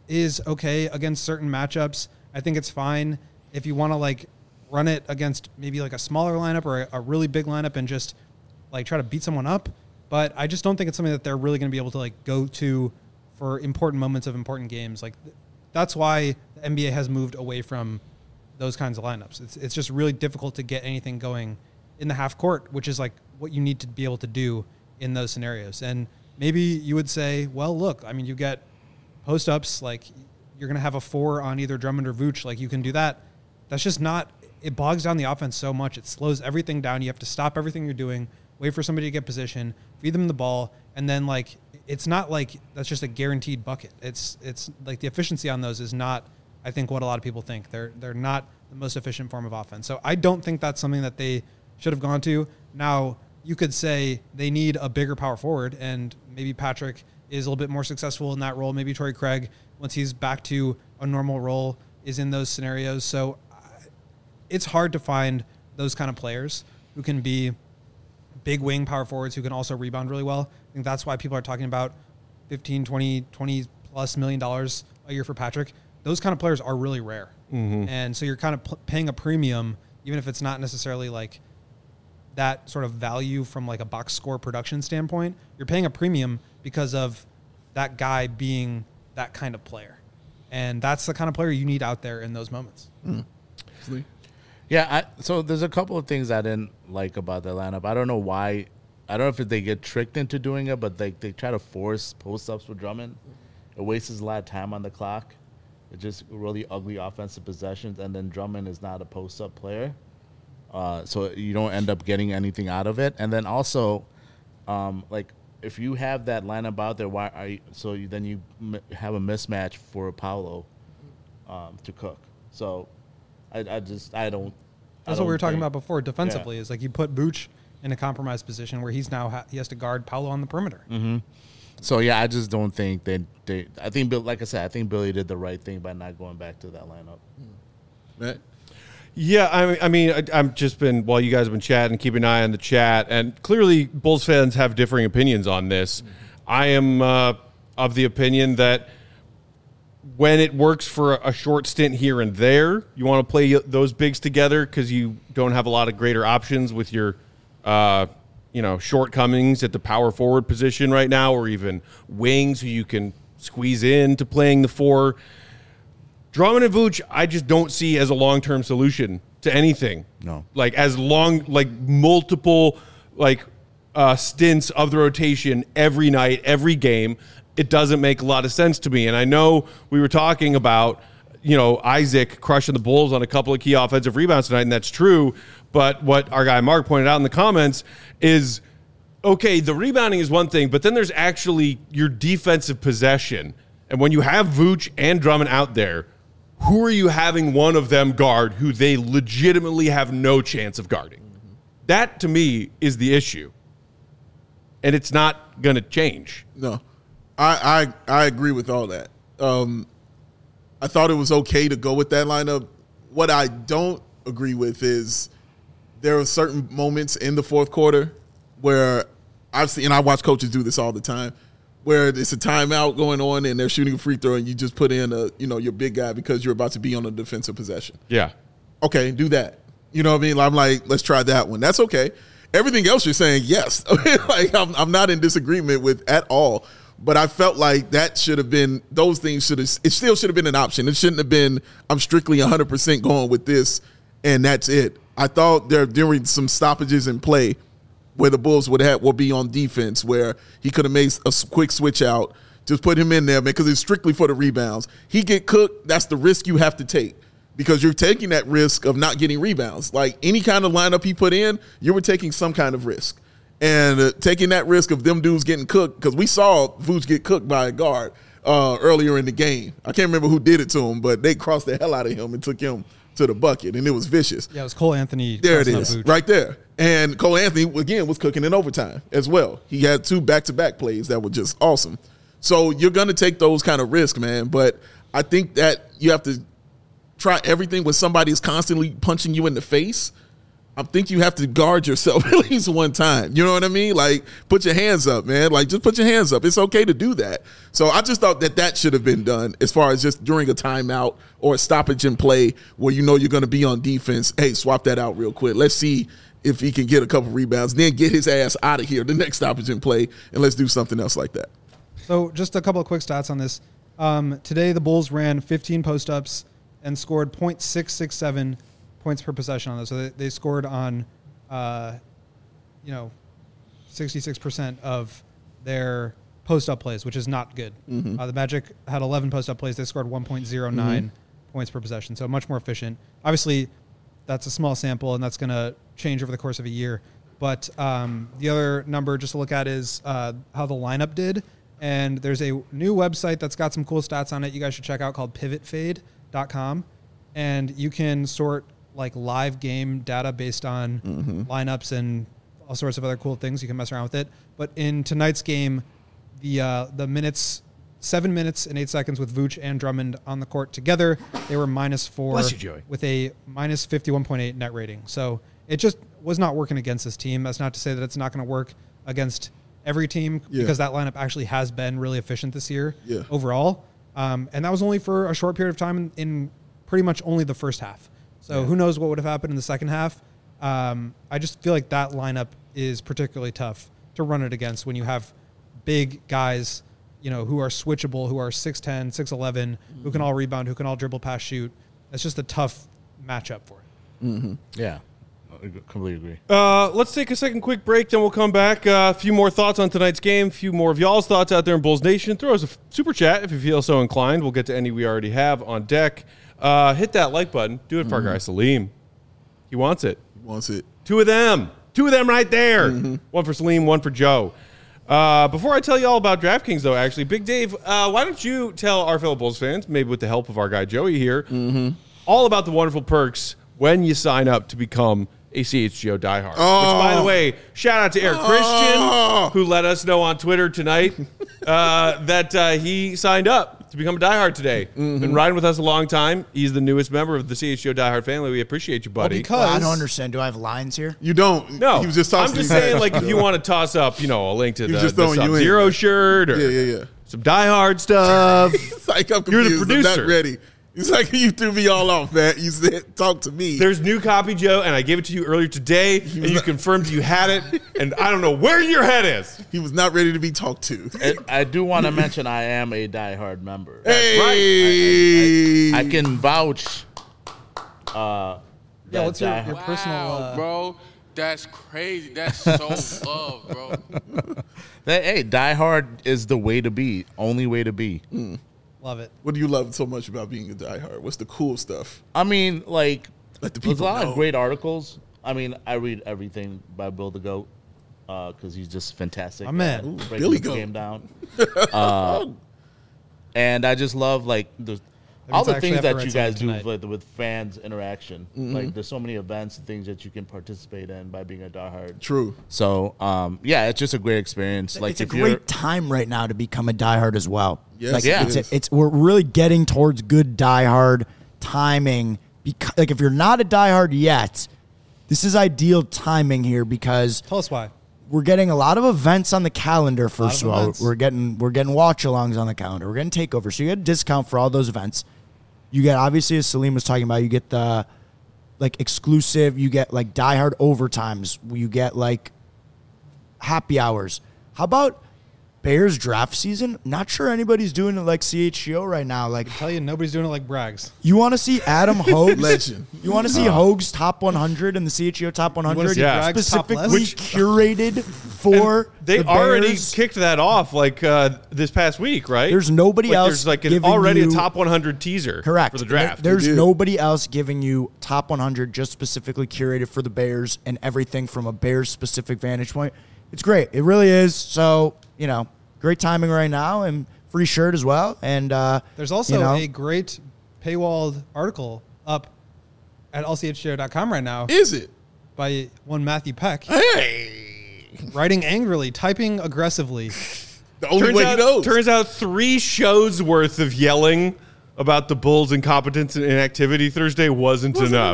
is okay against certain matchups. I think it's fine if you want to like run it against maybe like a smaller lineup or a really big lineup and just like try to beat someone up. But I just don't think it's something that they're really going to be able to like go to for important moments of important games. Like that's why the NBA has moved away from those kinds of lineups. It's just really difficult to get anything going in the half court, which is like what you need to be able to do in those scenarios. And maybe you would say, well, look, I mean, you get post ups, like you're going to have a 4 on either Drummond or Vooch. Like you can do that. That's just not, it bogs down the offense so much. It slows everything down. You have to stop everything you're doing, wait for somebody to get position, feed them the ball. And then like, it's not like that's just a guaranteed bucket. It's like the efficiency on those is not, I think, what a lot of people think. They're not the most efficient form of offense. So I don't think that's something that they should have gone to. Now, you could say they need a bigger power forward, and maybe Patrick is a little bit more successful in that role. Maybe Torrey Craig, once he's back to a normal role, is in those scenarios. So it's hard to find those kind of players who can be big wing power forwards who can also rebound really well. I think that's why people are talking about $15, $20 plus million a year for Patrick. Those kind of players are really rare. Mm-hmm. And so you're kind of paying a premium, even if it's not necessarily like that sort of value from like a box score production standpoint. You're paying a premium because of that guy being that kind of player. And that's the kind of player you need out there in those moments. Mm. Yeah, so there's a couple of things I didn't like about the lineup. I don't know why. I don't know if they get tricked into doing it, but they try to force post-ups with Drummond. It wastes a lot of time on the clock. It's just really ugly offensive possessions, and then Drummond is not a post-up player. So you don't end up getting anything out of it. And then also, like, if you have that lineup out there, why are you, so then you have a mismatch for Paolo to cook. So I don't. That's what we were talking about before. Defensively, is like you put Vooch in a compromised position where he's now he has to guard Paolo on the perimeter. Mm-hmm. So yeah, I just don't think they. I think, like I said, I think Billy did the right thing by not going back to that lineup. Right. Yeah, I mean, I've just been, while you guys have been chatting, keep an eye on the chat, and clearly Bulls fans have differing opinions on this. Mm-hmm. I am of the opinion that when it works for a short stint here and there, you want to play those bigs together because you don't have a lot of greater options with your, shortcomings at the power forward position right now, or even wings who you can squeeze into playing the 4. Drummond and Vooch, I just don't see as a long-term solution to anything. No. Like, as long, like, multiple, like, stints of the rotation every night, every game, it doesn't make a lot of sense to me. And I know we were talking about, Isaac crushing the Bulls on a couple of key offensive rebounds tonight, and that's true. But what our guy Mark pointed out in the comments is, okay, the rebounding is one thing, but then there's actually your defensive possession. And when you have Vooch and Drummond out there, who are you having one of them guard who they legitimately have no chance of guarding? Mm-hmm. That, to me, is the issue. And it's not going to change. No. I agree with all that. I thought it was okay to go with that lineup. What I don't agree with is there are certain moments in the fourth quarter where I've seen, and I watch coaches do this all the time, where it's a timeout going on and they're shooting a free throw and you just put in your big guy because you're about to be on a defensive possession. Yeah. Okay, do that. You know what I mean? I'm like, let's try that one. That's okay. Everything else you're saying, yes. I'm not in disagreement with at all. But I felt like that should have been, those things it still should have been an option. It shouldn't have been, I'm strictly 100% going with this and that's it. I thought during some stoppages in play where the Bulls will be on defense, where he could have made a quick switch out, just put him in there, man, because it's strictly for the rebounds. He get cooked, that's the risk you have to take, because you're taking that risk of not getting rebounds. Like any kind of lineup he put in, you were taking some kind of risk. And taking that risk of them dudes getting cooked, because we saw Vooch get cooked by a guard earlier in the game. I can't remember who did it to him, but they crossed the hell out of him and took him to the bucket, and it was vicious. Yeah, it was Cole Anthony. There it is, right there. And Cole Anthony, again, was cooking in overtime as well. He had 2 back-to-back plays that were just awesome. So you're going to take those kind of risks, man. But I think that you have to try everything when somebody is constantly punching you in the face. I think you have to guard yourself at least one time. You know what I mean? Like, put your hands up, man. Like, just put your hands up. It's okay to do that. So I just thought that should have been done as far as just during a timeout or a stoppage in play where you know you're going to be on defense. Hey, swap that out real quick. Let's see if he can get a couple rebounds, then get his ass out of here the next stoppage in play, and let's do something else like that. So just a couple of quick stats on this. Today, the Bulls ran 15 post-ups and scored .667 points per possession on those. So they scored on, 66% of their post-up plays, which is not good. Mm-hmm. The Magic had 11 post-up plays. They scored 1.09 points per possession, so much more efficient. Obviously, that's a small sample, and that's going to change over the course of a year. But the other number just to look at is how the lineup did. And there's a new website that's got some cool stats on it you guys should check out called pivotfade.com. And you can sort like live game data based on lineups and all sorts of other cool things. You can mess around with it. But in tonight's game, the minutes, 7 minutes and 8 seconds with Vooch and Drummond on the court together, they were -4 Bless you, Joey. with a -51.8 net rating. So it just was not working against this team. That's not to say that it's not going to work against every team because that lineup actually has been really efficient this year overall. And that was only for a short period of time in pretty much only the first half. So who knows what would have happened in the second half. I just feel like that lineup is particularly tough to run it against when you have big guys, who are switchable, who are 6'10", 6'11", who can all rebound, who can all dribble, pass, shoot. It's just a tough matchup for it. Yeah, I completely agree. Let's take a second quick break, then we'll come back. A few more thoughts on tonight's game, a few more of y'all's thoughts out there in Bulls Nation. Throw us a super chat if you feel so inclined. We'll get to any we already have on deck. Hit that like button. Do it for our guy Salim. He wants it. He wants it. Two of them right there. One for Salim, one for Joe. Before I tell you all about DraftKings, though, actually, Big Dave, why don't you tell our fellow Bulls fans, maybe with the help of our guy Joey here, all about the wonderful perks when you sign up to become a CHGO diehard. Which, by the way, shout out to Eric Christian, who let us know on Twitter tonight that he signed up to become a diehard today. Been riding with us a long time. He's the newest member of the CHGO diehard family. We appreciate you, buddy. Because I don't understand. Do I have lines here? You don't. No, He was just I'm tossing just you saying, back. like, if you want to toss up, a link to the just throwing you in. Sub-Zero shirt or Yeah. some diehard stuff. It's like, I'm You're the confused. I'm producer. not ready. It's like you threw me all off, man. You said, talk to me. There's new copy, Joe, and I gave it to you earlier today, and you confirmed you had it, and I don't know where your head is. He was not ready to be talked to. And I do want to mention I am a diehard member. Hey. I can vouch. what's your diehard- personal... bro. That's crazy. That's so love, bro. Hey, diehard is the way to be. Only way to be. Love it. What do you love so much about being a diehard? What's the cool stuff? I mean, like, Let the there's a people lot know. of great articles. I mean, I read everything by Bill the Goat because he's just fantastic. My man. Ooh, breaking Billy the Goat. game down. And I just love, like, all means I the actually things have to that write you guys do something with fans interaction. Like, there's so many events and things that you can participate in by being a diehard. True. So, yeah, it's just a great experience. Like, It's a if you're great time right now to become a diehard as well. Yes, like, Yeah. it is. it's we're really getting towards good diehard timing. Because, like, if you're not a diehard yet, this is ideal timing here because Tell us why. we're getting a lot of events on the calendar. First of of all, events. we're getting watch-alongs on the calendar. We're getting takeovers, so you get a discount for all those events. You get, obviously, as Salim was talking about, you get the like exclusive. You get like diehard overtimes. You get like happy hours. How about Bears draft season? Not sure anybody's doing it like CHGO right now. Like, Tell you, nobody's doing it like Braggs. you want to see Adam Hogue's Legend. You want to see Hogue's top 100 and the CHGO top 100 see Yeah. Bragg's top specifically list? curated for They the already Bears? kicked that off like this past week, right? There's nobody else There's like giving already a you- top 100 teaser Correct. for the draft. There's did. nobody else giving you top 100 just specifically curated for the Bears and everything from a Bears specific vantage point. It's great. It really is. So, great timing right now and free shirt as well. And There's also you know, a great paywalled article up at lchgo.com right now Is it? by one Matthew Peck, Hey. writing angrily, typing aggressively. The only way he knows. Turns out 3 shows worth of yelling about the Bulls' incompetence and inactivity Thursday wasn't enough.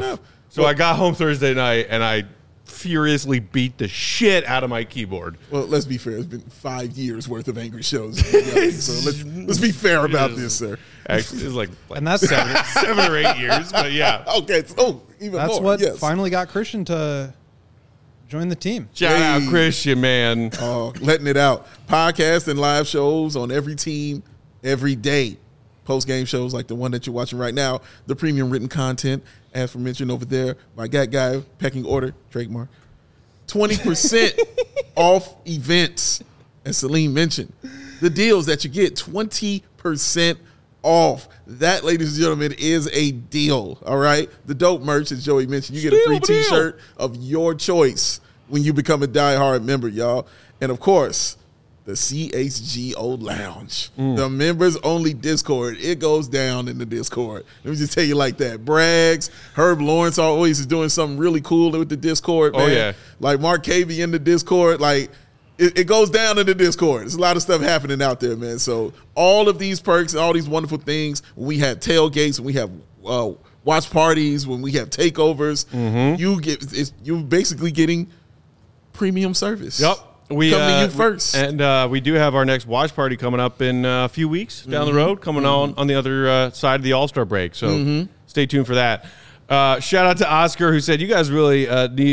So I got home Thursday night, and I furiously beat the shit out of my keyboard. Well, let's be fair. It's been 5 years worth of angry shows. So let's be fair about this, sir. Actually, it was like And that's 7 or 8 years, but yeah. Okay. So, even that's more. what yes. finally got Christian to join the team. Shout out Hey. Christian, man. Letting it out. Podcasts and live shows on every team, every day. Post-game shows like the one that you're watching right now. The premium written content, as mentioned over there, my guy, pecking order, trademark. 20% off events, as Salim mentioned. The deals that you get, 20% off. That, ladies and gentlemen, is a deal, all right? The dope merch, as Joey mentioned, you get a free Deal. T-shirt of your choice when you become a diehard member, y'all. And, of course, the CHGO Lounge, the members-only Discord. It goes down in the Discord. Let me just tell you like that. Braggs, Herb Lawrence always is doing something really cool with the Discord, man. Oh, yeah. Like Mark Cavey in the Discord. Like, it goes down in the Discord. There's a lot of stuff happening out there, man. So all of these perks and all these wonderful things, when we have tailgates, when we have watch parties, when we have takeovers, you're basically getting premium service. Yep. We Coming to you first. And we do have our next watch party coming up in a few weeks down the road, coming on the other side of the All-Star break. So stay tuned for that. Shout out to Oscar, who said, you guys really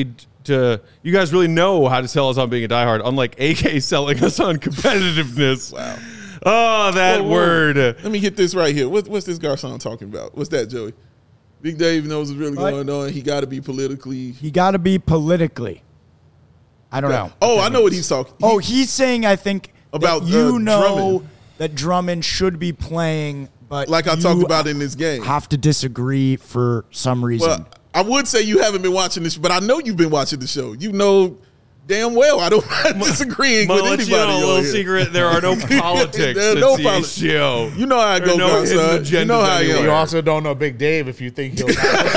you guys really know how to sell us on being a diehard, unlike AK selling us on competitiveness. Wow. Oh, that Whoa. word. Let me get this right here. What's this Garcon talking about? What's that, Joey? Big Dave knows what's really going on. He got to be politically. He got to be politically. I don't know. Oh, I know what he's talking. He's saying, I think, About, that you know Drummond. that Drummond should be playing, but Like I you talked about in this game. have to disagree for some reason. Well, I would say you haven't been watching this, but I know you've been watching the show. You know damn well I don't disagreeing I'm with gonna let anybody. you know a on little here. secret. There are no politics There are at no CHGO. You know how I There go, are no hidden Garcon. You know agendas how I anywhere. You am. also don't know Big Dave if you think he'll.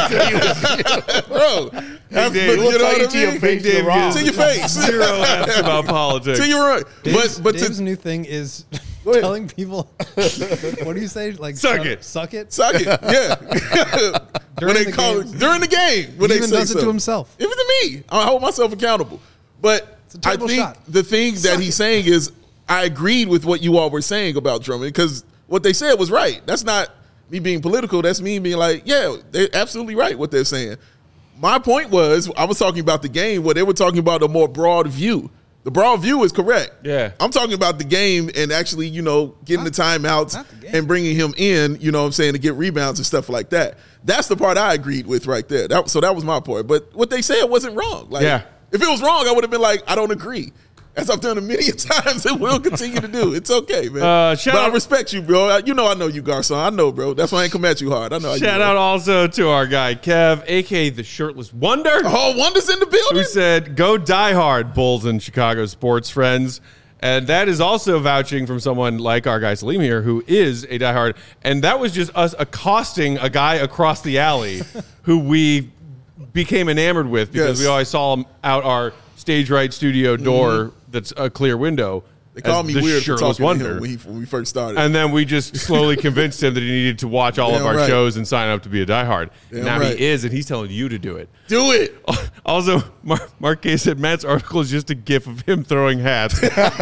Bro. Dave, You we'll know tell you what to I your mean? face. Dave you're wrong. To your face. Zero F's about politics. To your right. Dave's, But Dave's to new thing is Go ahead. telling people, what do you say? Like, Suck it. Suck it? suck it. Yeah. During when the they call game. it during the game. When He they even say does it to so. himself. Even to me. I hold myself accountable. But a I terrible think shot. the thing that he's saying is I agreed with what you all were saying about Drummond because what they said was right. That's not me being political. That's me being like, yeah, they're absolutely right what they're saying. My point was I was talking about the game where they were talking about a more broad view. The broad view is correct. Yeah. I'm talking about the game and actually, getting the timeouts not the game. and bringing him in, to get rebounds and stuff like that. That's the part I agreed with right there. So that was my point. But what they said wasn't wrong. Like, Yeah. if it was wrong, I would have been like, I don't agree. As I've done a million times and will continue to do. It's okay, man. shout but I out- respect you, bro. I know you, Garcon. I know, bro. That's why I ain't come at you hard. I know. Shout out also to our guy, Kev, a.k.a. the Shirtless Wonder, Oh, Wonder's in the building. who said, go die hard, Bulls and Chicago sports friends. And that is also vouching from someone like our guy Salim here, who is a diehard. And that was just us accosting a guy across the alley who we became enamored with because Yes. we always saw him out our stage right studio door that's a clear window. They called as me the weird for Shirtless talking to Wonder. him when we first started. And then we just slowly convinced him that he needed to watch all of Damn our right. shows and sign up to be a diehard. Damn Now right. he is, and he's telling you to do it. Do it. Also, Mark K said Matt's article is just a gif of him throwing hats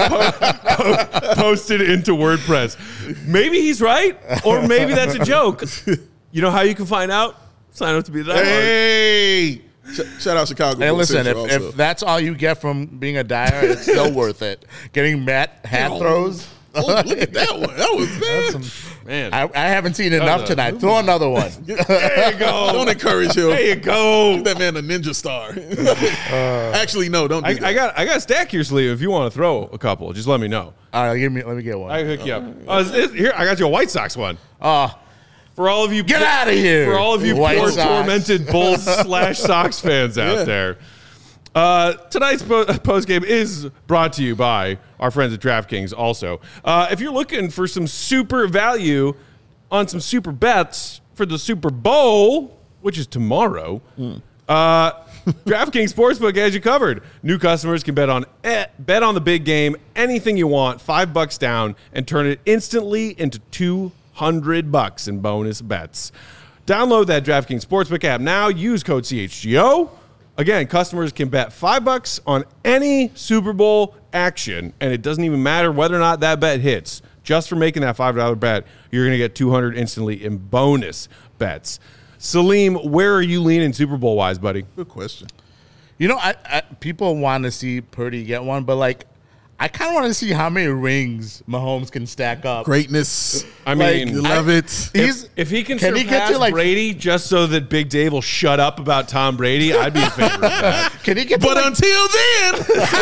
posted into WordPress. Maybe he's right, or maybe that's a joke. You know how you can find out? Sign up to be a diehard. Hey. Shout out Chicago. And Bulls listen, Central also. if that's all you get from being a diehard, it's still worth it. Getting Matt hat throws. Oh, look at that one. That was bad. Some, Man, I haven't seen enough tonight. Throw another one. there you go. Don't encourage him. There you go. Give that man a ninja star. Actually, no, don't do that. I got a stack here, sleeve. If you want to throw a couple, just let me know. Let me get one. I can hook you up. Here, I got you a White Sox one. For all of you, Get outta here, For all of you White poor Sox. tormented Bulls / Sox fans out there. Tonight's post game is brought to you by our friends at DraftKings. Also, if you're looking for some super value on some super bets for the Super Bowl, which is tomorrow, DraftKings Sportsbook has you covered. New customers can bet on the big game, anything you want, $5 down, and turn it instantly into $200 in bonus bets. Download that DraftKings Sportsbook app now. Use code CHGO. Again, customers can bet $5 on any Super Bowl action, and it doesn't even matter whether or not that bet hits. Just for making that $5 bet, you're going to get $200 instantly in bonus bets. Salim, where are you leaning Super Bowl-wise, buddy? Good question. You know, I people want to see Purdy get one, but like, I kind of want to see how many rings Mahomes can stack up. Greatness. I mean, You love it. if he can he surpass get to, like- Brady just so that Big Dave will shut up about Tom Brady, I'd be in favor of that. Can he get? To But like, until then,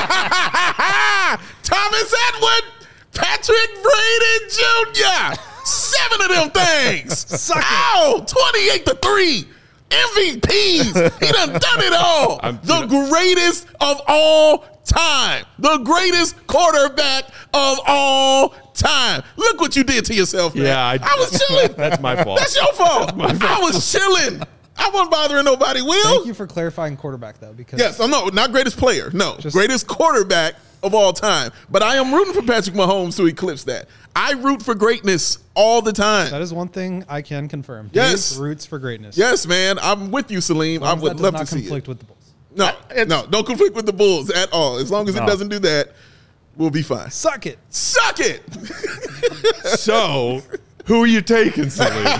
Thomas Edward, Patrick Brady Jr., 7 of them things. Ow, 28-3. MVPs. He done it all. The greatest of all time. The greatest quarterback of all time. Look what you did to yourself, man. Yeah, I was chilling. That's my fault. That's your fault. I was chilling. I wasn't bothering nobody, Will. Thank you for clarifying quarterback, though, because Yes, I'm not greatest player. No, Just- greatest quarterback of all time. But I am rooting for Patrick Mahomes to eclipse that. I root for greatness all the time. that is one thing I can confirm. Yes. Dave roots for greatness. Yes, man. I'm with you, Salim. I As long as would that does love not to see conflict it. with the Bulls. No, don't conflict with the Bulls at all. As long as it No. doesn't do that, we'll be fine. Suck it. Suck it. So, who are you taking, Salim?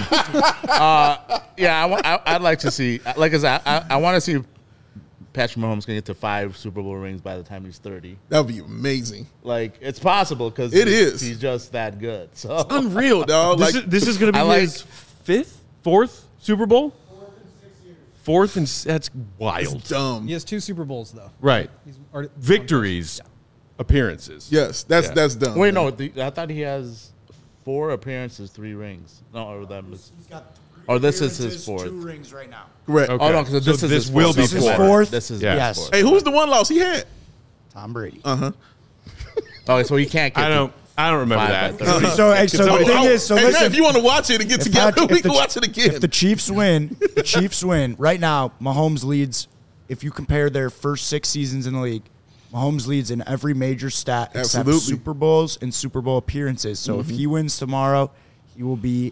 yeah, I'd like to see. Like I said, I want to see Patrick Mahomes can get to 5 Super Bowl rings by the time he's 30. That would be amazing. Like, it's possible because It is. He's just that good. So Unreal, dog. Like, this is going to be I like- his fourth Super Bowl? Fourth, and that's wild. it's dumb. He has 2 Super Bowls, though. Right. He's already, Victories, appearances. Yes, that's dumb. wait, man. no, I thought he has 4 appearances, 3 rings. No, or that was. Or this is his 4th. 2 rings right now. Correct. Okay. Oh no, because So this is this his will 4th. be This is fourth. 4th. This is Yes. his 4th. Hey, who's the one loss he had? Tom Brady. Oh, so he can't get. I don't remember 5 that. by 30. So the somebody- thing is, so hey, man, listen, if you want to watch it and get together, we can watch it again. If the Chiefs win, right now, Mahomes leads. If you compare their first 6 seasons in the league, Mahomes leads in every major stat except Absolutely. Super Bowls and Super Bowl appearances. So if he wins tomorrow, he will be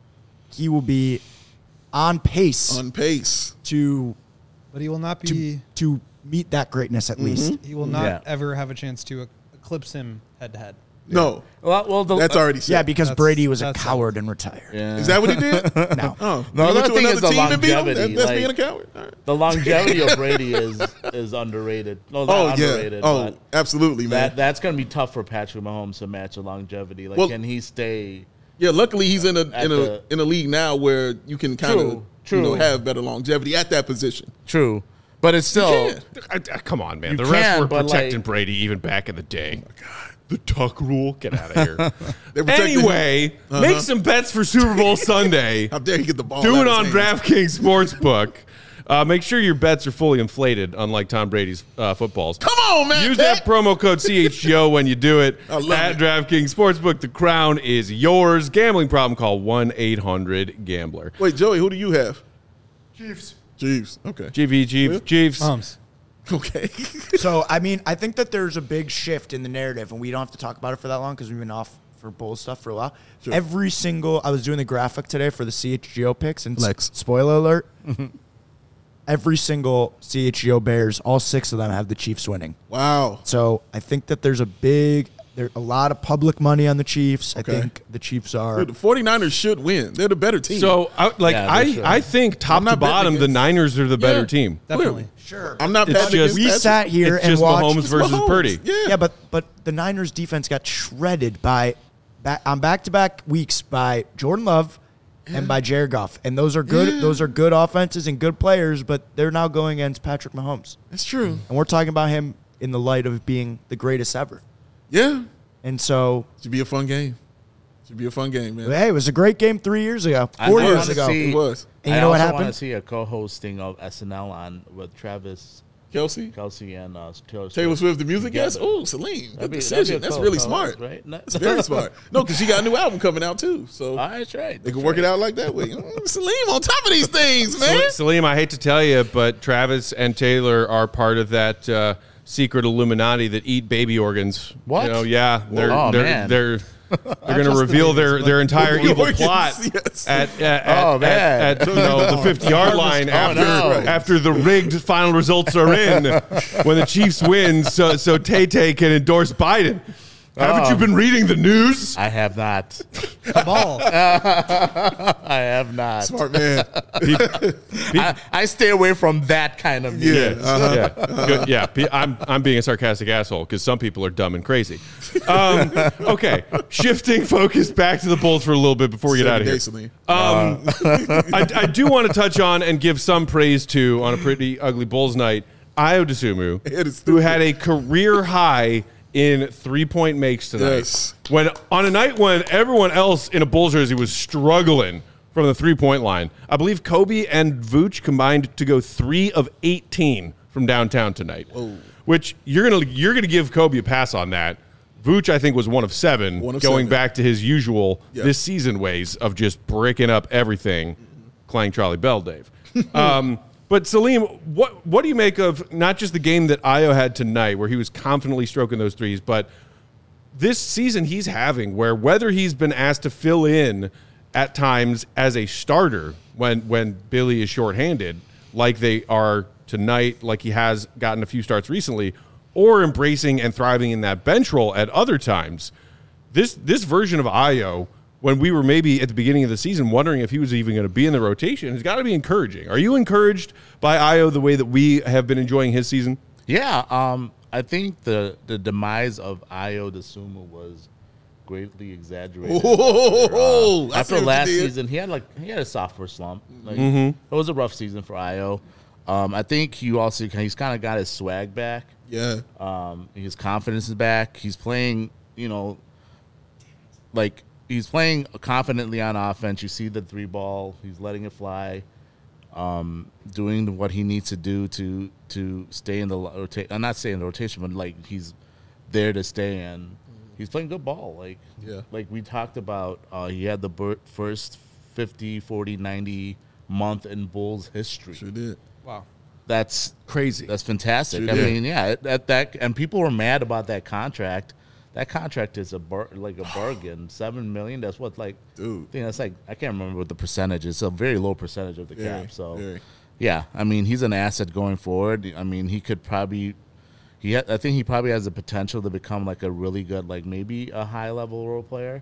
on pace On pace. to but he will not be. to meet that greatness at least. He will not Yeah. ever have a chance to eclipse him head to head. No, Well, that's already set. Yeah, because That's- Brady was a that's coward and retired. Yeah. Is that what he did? No. Oh, No, he the went other to thing is another the team and beat him? longevity, That's like- being a coward. All right. The longevity of Brady is underrated. No, not Oh, underrated. yeah. Oh, but absolutely, man. that's going to be tough for Patrick Mahomes to match the longevity. Like, Well- can he stay? Yeah, luckily he's in At the- a league now where you can kind of True. have better longevity at that position. True, but it's still. Come on, man. You The refs can, were but, protecting like- Brady even back in the day. The Tuck rule. Get out of here. They protected him. Anyway, make some bets for Super Bowl Sunday. How dare he get the ball? Do out it of on his hands. DraftKings Sportsbook. Make sure your bets are fully inflated, unlike Tom Brady's footballs. Come on, man. Use that promo code CHGO when you do it I love at it. DraftKings Sportsbook. The crown is yours. Gambling problem, call 1-800-GAMBLER. Wait, Joey, who do you have? Chiefs. Chiefs. Okay. GV, Chiefs. Mahomes. Okay. So, I mean, I think that there's a big shift in the narrative, and we don't have to talk about it for that long because we've been off for bowl stuff for a while. Sure. Every single, I was doing the graphic today for the CHGO picks, and Flex. spoiler alert, every single CHGO Bears, all 6 of them have the Chiefs winning. Wow. So I think that there's a lot of public money on the Chiefs. Okay. I think the Chiefs are. Dude, the 49ers should win. They're the better team. So, Yeah, they should. I think top I'm to not betting bottom, the against- Niners are the better Yeah. team. Definitely. Sure. I'm not It's betting just- against We that. sat here It's and just watched. Mahomes versus Mahomes. Purdy. Yeah. Yeah, but the Niners defense got shredded on back-to-back weeks by Jordan Love and by Jared Goff, and those are good. Yeah. Those are good offenses and good players, but they're now going against Patrick Mahomes, That's true. and we're talking about him in the light of being the greatest ever. Yeah. And so, Should be a fun game. Should be a fun game, man. hey, it was a great game 3 years ago, I 4 know, years wanna ago. see- It was. And you know what I also want happened? to see a co-hosting of SNL on with Travis Kelsey? Kelsey and Taylor Swift. Taylor Swift, the music guest? Together. Oh, Celine. Good That'd be decision. a That's cool really co-host, smart. right? That's very smart. No, because she got a new album coming out, too. So That's right. they can work it out like that way. Celine on top of these things, man. Salim, I hate to tell you, but Travis and Taylor are part of that secret Illuminati that eat baby organs. What? You know, yeah, they're Oh, they're man. they're going to just the reveal babies, their but entire the evil organs, plot yes. at the 50-yard line after the rigged final results are in when the Chiefs win. So Tay can endorse Biden. Haven't you been reading the news? I have not. Cabal. I have not. Smart man. I stay away from that kind of news. Yeah. Good. Yeah. I'm being a sarcastic asshole because some people are dumb and crazy. Okay, shifting focus back to the Bulls for a little bit before we get out of here. Basically. I do want to touch on and give some praise to, on a pretty ugly Bulls night, Ayo Dosunmu, It is who stupid. had a career high in 3-point makes tonight. Yes. When on a night when everyone else in a Bulls jersey was struggling from the 3-point line, I believe Kobe and Vooch combined to go 3 of 18 from downtown tonight. Which you're gonna give Kobe a pass on that. Vooch, I think, was 1 of 7, One of going 7. back to his usual Yeah. this season ways of just bricking up everything, playing Charlie Bell, Dave. But Salim, what do you make of not just the game that Ayo had tonight, where he was confidently stroking those threes, but this season he's having, where whether he's been asked to fill in at times as a starter when Billy is shorthanded, like they are tonight, like he has gotten a few starts recently, or embracing and thriving in that bench role at other times, this version of Ayo, when we were maybe at the beginning of the season wondering if he was even going to be in the rotation, has got to be encouraging. Are you encouraged by Ayo the way that we have been enjoying his season? Yeah, I think the demise of Ayo Dosunmu was greatly exaggerated. Oh, I see After what you last did. season, he had a sophomore slump. Like, It was a rough season for Ayo. I think he's kind of got his swag back. Yeah. His confidence is back. He's playing, he's playing confidently on offense. You see the 3 ball. He's letting it fly, doing what he needs to do to stay in the rotation. Not stay in the rotation, but like he's there to stay in. He's playing good ball. Like we talked about, he had the first 50, 40, 90 month in Bulls history. Sure did. Wow. That's Crazy. That's fantastic. Sure I did. mean, yeah, that and people were mad about that contract. That contract is a bargain. $7 million. That's what Dude. I think that's I can't remember what the percentage is. It's a very low percentage of the Very, cap. So very. yeah, I mean, he's an asset going forward. I mean, he could probably. I think he probably has the potential to become like a really good, maybe a high level role player.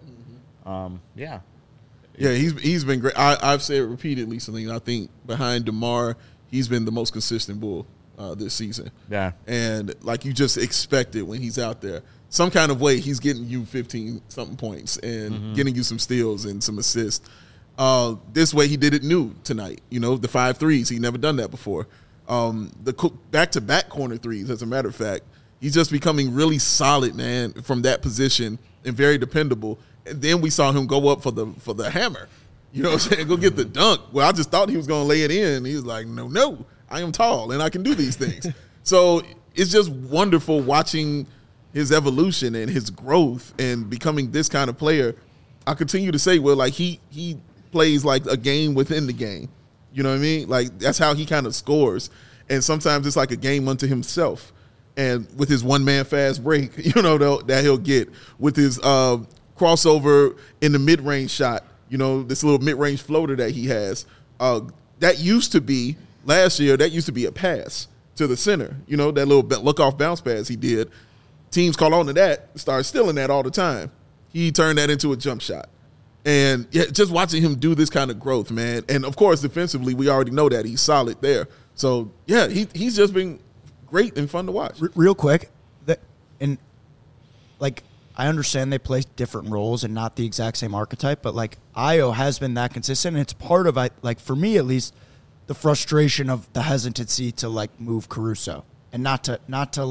Yeah. Yeah, he's been great. I've said it repeatedly, Celine. I think behind DeMar, he's been the most consistent Bull this season. Yeah. And like you just expect it when he's out there. Some kind of way he's getting you 15-something points and getting you some steals and some assists. This way he did it new tonight. The 5 threes. He never done that before. The back-to-back corner threes, as a matter of fact. He's just becoming really solid, man, from that position and very dependable. And then we saw him go up for the hammer. You know what I'm saying? Go get the dunk. Well, I just thought he was going to lay it in. He was like, no, I am tall and I can do these things. So it's just wonderful watching his evolution and his growth and becoming this kind of player. I continue to say, he plays like a game within the game. You know what I mean? Like, that's how he kind of scores. And sometimes it's like a game unto himself. And with his one-man fast break, that he'll get. With his crossover in the mid-range shot, this little mid-range floater that he has. That used to be, last year, a pass to the center. That little look-off bounce pass he did. Teams call on to that, start stealing that all the time. He turned that into a jump shot. And yeah, just watching him do this kind of growth, man. And, of course, defensively, we already know that he's solid there. So, yeah, he's just been great and fun to watch. Real quick, I understand they play different roles and not the exact same archetype, but Ayo has been that consistent. And it's part of for me at least, the frustration of the hesitancy to move Caruso and not to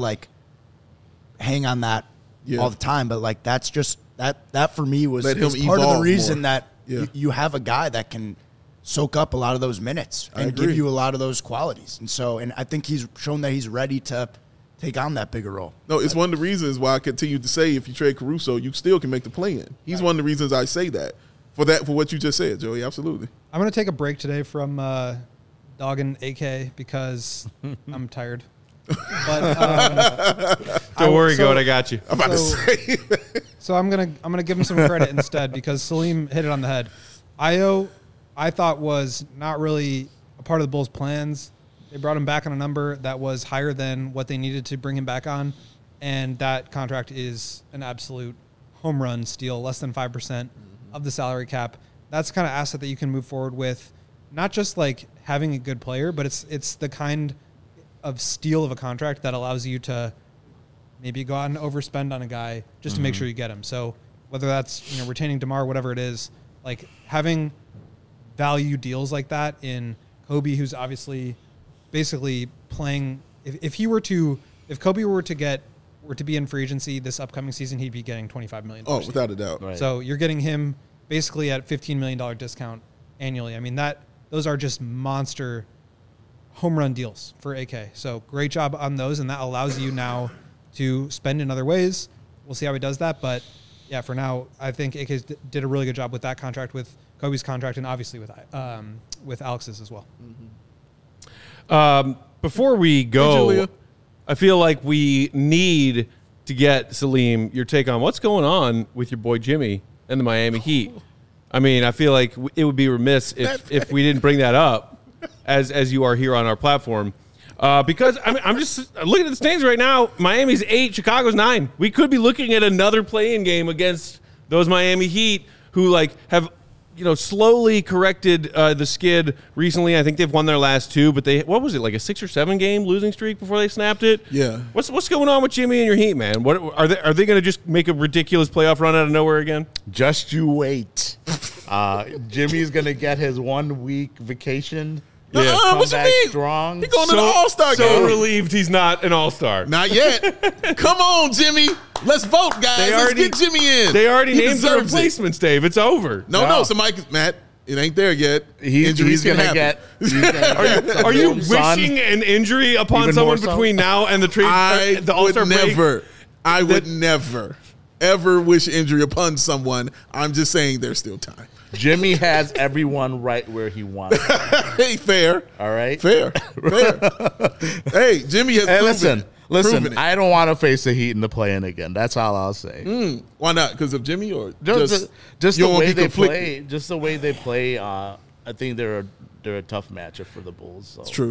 hang on that all the time. But that's just that for me was Let him part of the evolve reason more. that Yeah. you have a guy that can soak up a lot of those minutes I and agree. give you a lot of those qualities. And I think he's shown that he's ready to take on that bigger role. No, it's one of the reasons why I continue to say if you trade Caruso, you still can make the play in. He's one of the reasons I say that. For what you just said, Joey, absolutely. I'm going to take a break today from dogging AK because I'm tired. But Don't worry, Goat, I got you. I'm about to say. So I'm gonna give him some credit instead because Salim hit it on the head. Io, I thought was not really a part of the Bulls' plans. They brought him back on a number that was higher than what they needed to bring him back on, and that contract is an absolute home run steal, less than 5% of the salary cap. That's the kind of asset that you can move forward with, not just like having a good player, but it's the kind of steal of a contract that allows you to maybe go out and overspend on a guy just to make sure you get him. So whether that's retaining DeMar, whatever it is, like having value deals like that in Kobe, who's obviously basically playing. If Kobe were to be in free agency this upcoming season, he'd be getting $25 million. Oh, without a doubt. Right. So you're getting him basically at $15 million discount annually. I mean, those are just monster home run deals for AK. So great job on those, and that allows you now to spend in other ways. We'll see how he does that, but yeah, for now, I think AK did a really good job with that contract, with Kobe's contract, and obviously with Alex's as well. Before we Hey, go, Julia. I feel like we need to get, Salim, your take on what's going on with your boy Jimmy and the Miami Heat. I mean, I feel like it would be remiss if we didn't bring that up as you are here on our platform. Because I'm just looking at the standings right now. Miami's 8, Chicago's 9. We could be looking at another play-in game against those Miami Heat who have slowly corrected the skid recently. I think they've won their last 2, but what was it, like a 6 or 7 game losing streak before they snapped it? Yeah. What's going on with Jimmy and your Heat, man? What are they going to just make a ridiculous playoff run out of nowhere again? Just you wait. Jimmy's gonna get his 1 week vacation. Yeah. Come What you back mean? strong. He going to the All-Star So game. relieved he's not an All-Star. Not yet. Come on, Jimmy. Let's vote, guys. Let's get Jimmy in. They already He named the deserves it. replacements, Dave. It's over. No, somebody, Matt, it ain't there yet. Injuries He's can gonna happen. get. Are you Son. wishing an injury upon Even someone more so? between now and the trade, the All-Star break? I would never, ever wish injury upon someone. I'm just saying there's still time. Jimmy has everyone right where he wants. Hey, fair. All right. Fair. Hey, Jimmy has Hey, proven listen. it. I don't want to face the Heat in the play-in again. That's all I'll say. Why not? Because of Jimmy or Just you the don't wanna way be they conflicted? play. Just the way they play. I think they're a tough matchup for the Bulls. So, It's true.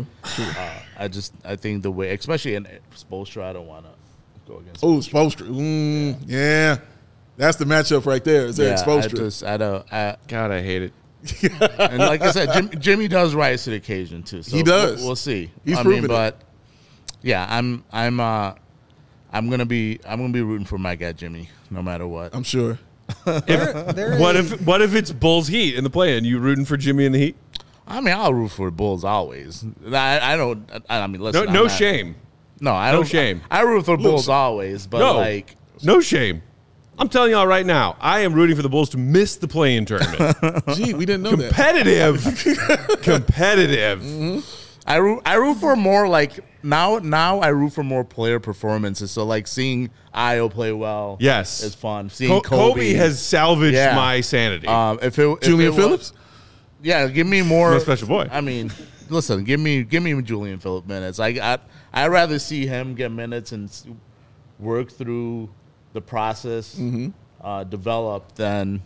I think the way, especially in Spoelstra, I don't want to go against. Oh, Spoelstra. Yeah. That's the matchup right there. Is Eric Spoelstra. God, I hate it. And like I said, Jimmy does rise to the occasion too. So He does. We'll see. He's proven it. But yeah, I'm gonna be rooting for my guy Jimmy, no matter what. I'm sure. What if it's Bulls Heat in the play-in? You rooting for Jimmy and the Heat? I mean, I'll root for Bulls always. I don't. I mean, listen. No I'm not- shame. No, I No don't. shame. I root for Bulls always, but No, no shame. I'm telling y'all right now, I am rooting for the Bulls to miss the play-in tournament. Gee, we didn't know that. Competitive. I root for more like now. I root for more player performances. So like seeing Io play well, Yes. is fun. Seeing Kobe has salvaged Yeah. my sanity. Julian Phillips? Yeah, give me more. No special boy. I mean, listen, give me Julian Phillips minutes. I'd rather see him get minutes and work through the process, develop than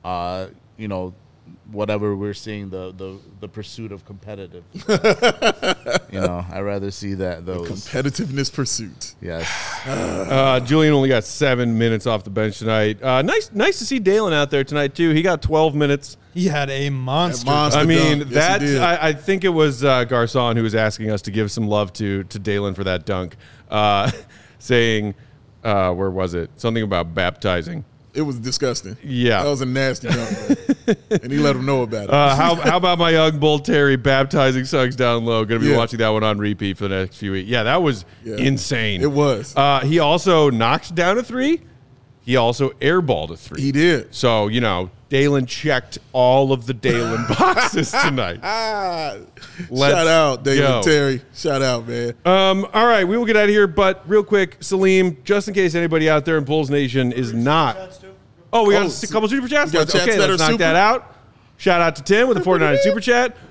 whatever we're seeing the pursuit of competitive. I'd rather see those. Competitiveness pursuit. Yes. Julian only got 7 minutes off the bench tonight. Nice to see Dalen out there tonight too. He got 12 minutes. He had a monster. I mean, dunk. Yes, he did. I think it was Garcon who was asking us to give some love to Dalen for that dunk, saying, where was it? Something about baptizing. It was disgusting. Yeah. That was a nasty dunk. And he let him know about it. How about my young bull Terry baptizing Suggs down low? Going to be Yeah. watching that one on repeat for the next few weeks. Yeah, that was insane. It was. He also knocked down a 3. He also airballed a 3. He did. So, Dalen checked all of the Dalen boxes tonight. Let's Shout out, David go. Terry. Shout out, man. All right, we will get out of here, but real quick, Salim, just in case anybody out there in Bulls Nation is not. Oh, we got a couple super chats. We got chats that Let's are knock super? that out. Shout out to Tim with a $49 super chat.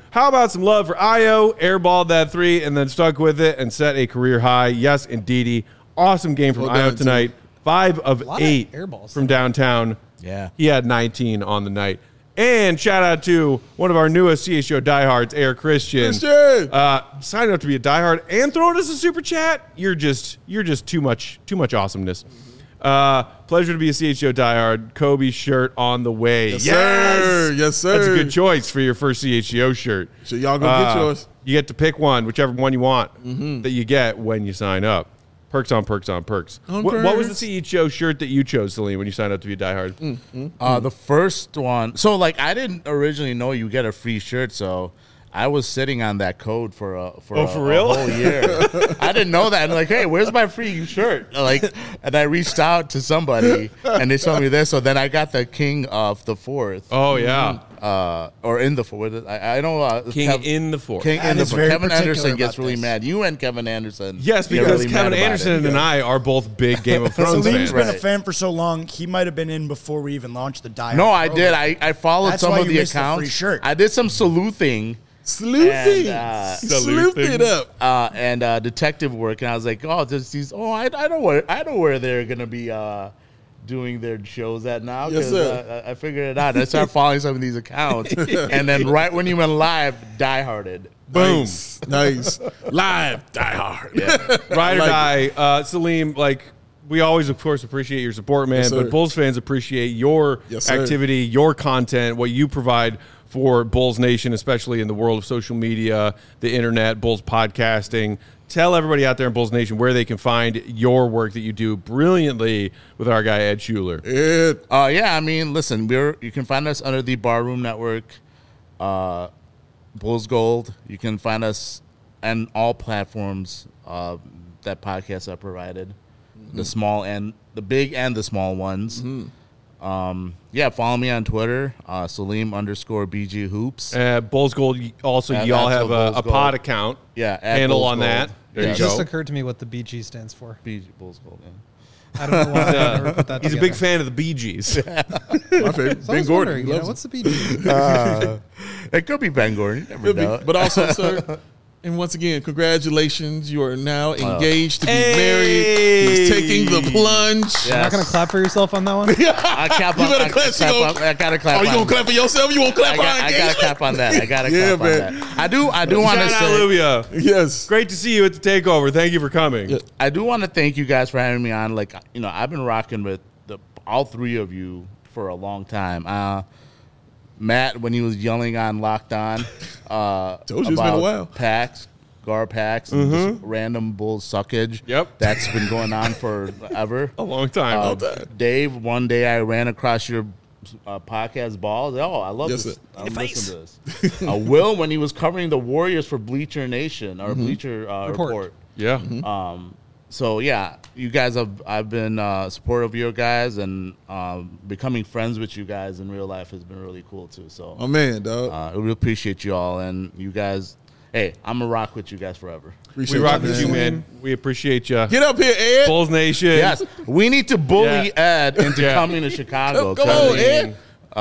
How about some love for Io? Airballed that 3 and then stuck with it and set a career high. Yes, indeedy. Awesome game from Well Io done, tonight. 5 of lot of 8 airballs. from downtown. Yeah. He had 19 on the night. And shout out to one of our newest CHGO diehards, Air Christian. Signing up to be a diehard and throwing us a super chat. You're just too much awesomeness. Pleasure to be a CHGO diehard. Kobe shirt on the way. Yes, sir. Yes, sir. That's a good choice for your first CHGO shirt. So y'all go get yours. You get to pick one, whichever one you want that you get when you sign up. Perks on perks on perks. What was the CHGO shirt that you chose, Celine, when you signed up to be a diehard? The first one. So, like, I didn't originally know you get a free shirt, so I was sitting on that code for for real? a whole year. I didn't know that. I'm like, hey, where's my free shirt? Like, and I reached out to somebody, and they showed me this. So then I got the King of the Fourth. Oh, yeah. Or in the fourth. I don't King in the fourth. King in the is fourth. very Kevin particular Anderson gets about really this. mad. You and Kevin Anderson. Yes, get because really Kevin mad about Anderson it. and I are both big Game of Thrones Salim's fans. been a Right. fan for so long, he might have been in before we even launched the Die No, Hard I did. program. I followed That's some why of you the missed the accounts. free shirt. I did some sleuthing. Sleuthing. And, Sleuth it up. and detective work, and I was like, "Oh, there's these. Oh, I know where they're gonna be doing their shows at now." Yes, 'cause, sir. I figured it out. I started following some of these accounts, and then right when you went live, dieharded. Boom. Nice. Live. Die hard. Ride or Like die. Salim, like, we always, of course, appreciate your support, man, Yes, sir. but Bulls fans appreciate your Yes, sir. activity, your content, what you provide for Bulls Nation, especially in the world of social media, the internet, Bulls podcasting. Tell everybody out there in Bulls Nation where they can find your work that you do brilliantly with our guy, Ed Schuler. Yeah, I mean, listen, you can find us under the Barroom Network, Bulls Gold. You can find us on all platforms that podcasts are provided, the small and the big and the small ones. Yeah, follow me on Twitter, Salim_BG Hoops. Bulls Gold, also, At y'all Actual have a Bulls pod Gold. account Yeah, at handle Bulls on Gold. that. There Yeah. you It just go. occurred to me what the BG stands for. BG Bulls Gold. Yeah. I don't know why I never put that He's a together. big fan of the Bee Gees. My favorite. So I Ben was Gordon. wondering, He loves what's the BG? It could be Ben Gordon. You never Could be. know. But also, sir, and once again, congratulations. You are now engaged to be Hey! married. He's taking the plunge. Yeah. You're not going to clap for yourself on that one? I clap You on, better I clap. clap on- I gotta clap Are you on- going to clap for yourself? You won't clap for our I gotta engagement? clap on that. I gotta Yeah, clap man. on that. I do want to Shout out say, Lubia. Yes. Great to see you at the takeover. Thank you for coming. Yeah. I do want to thank you guys for having me on. Like, you know, I've been rocking with all three of you for a long time. Matt, when he was yelling on Locked On, Told you it's been a about while. packs, gar packs, and just random Bulls suckage. Yep. That's been going on forever. A long time. Dave, one day I ran across your podcast balls. Oh, I love Yes, this. sir. I'm listening to this. Will, when he was covering the Warriors for Bleacher Nation or Bleacher Report. yeah. So yeah, you guys I've been supportive of you guys, and becoming friends with you guys in real life has been really cool too. So Oh, man, dog. I really appreciate you all, and you guys. Hey, I'm gonna rock with you guys forever. Appreciate We rock you, with you, man. We appreciate you. Get up here, Ed. Bulls Nation. Yes, we need to bully Yeah. Ed into Yeah. coming to Chicago. Come 'cause, on, Ed.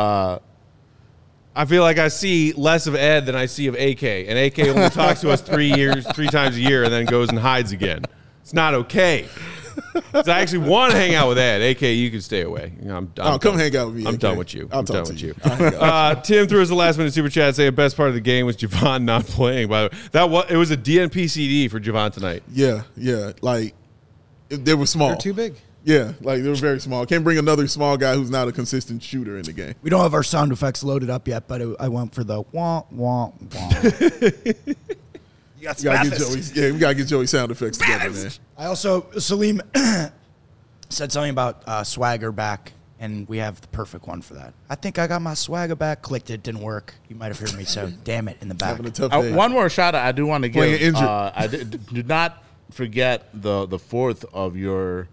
I feel like I see less of Ed than I see of AK. And AK only talks to us 3 times a year and then goes and hides again. It's not okay. 'Cause I actually want to hang out with Ed. AK, you can stay away. I'm Oh, come hang out with me. I'm AK. done with you. I'll I'm talk done to with you. you. I'll hang out. Tim threw us the last minute super chat saying best part of the game was Javon not playing. By the way, it was a DNP CD for Javon tonight. Yeah. Like, they were small. They're too big. Yeah, like they were very small. Can't bring another small guy who's not a consistent shooter in the game. We don't have our sound effects loaded up yet, but I went for the wah, wah, wah. You got We gotta get Joey. Yeah, we gotta get Joey sound effects together, man. I also, Salim said something about swagger back, and we have the perfect one for that. I think I got my swagger back. Clicked it, didn't work. You might have heard me, so damn it in the back. Having a tough day. One more shout out I do want to Playing give. injured. I do not forget the fourth of your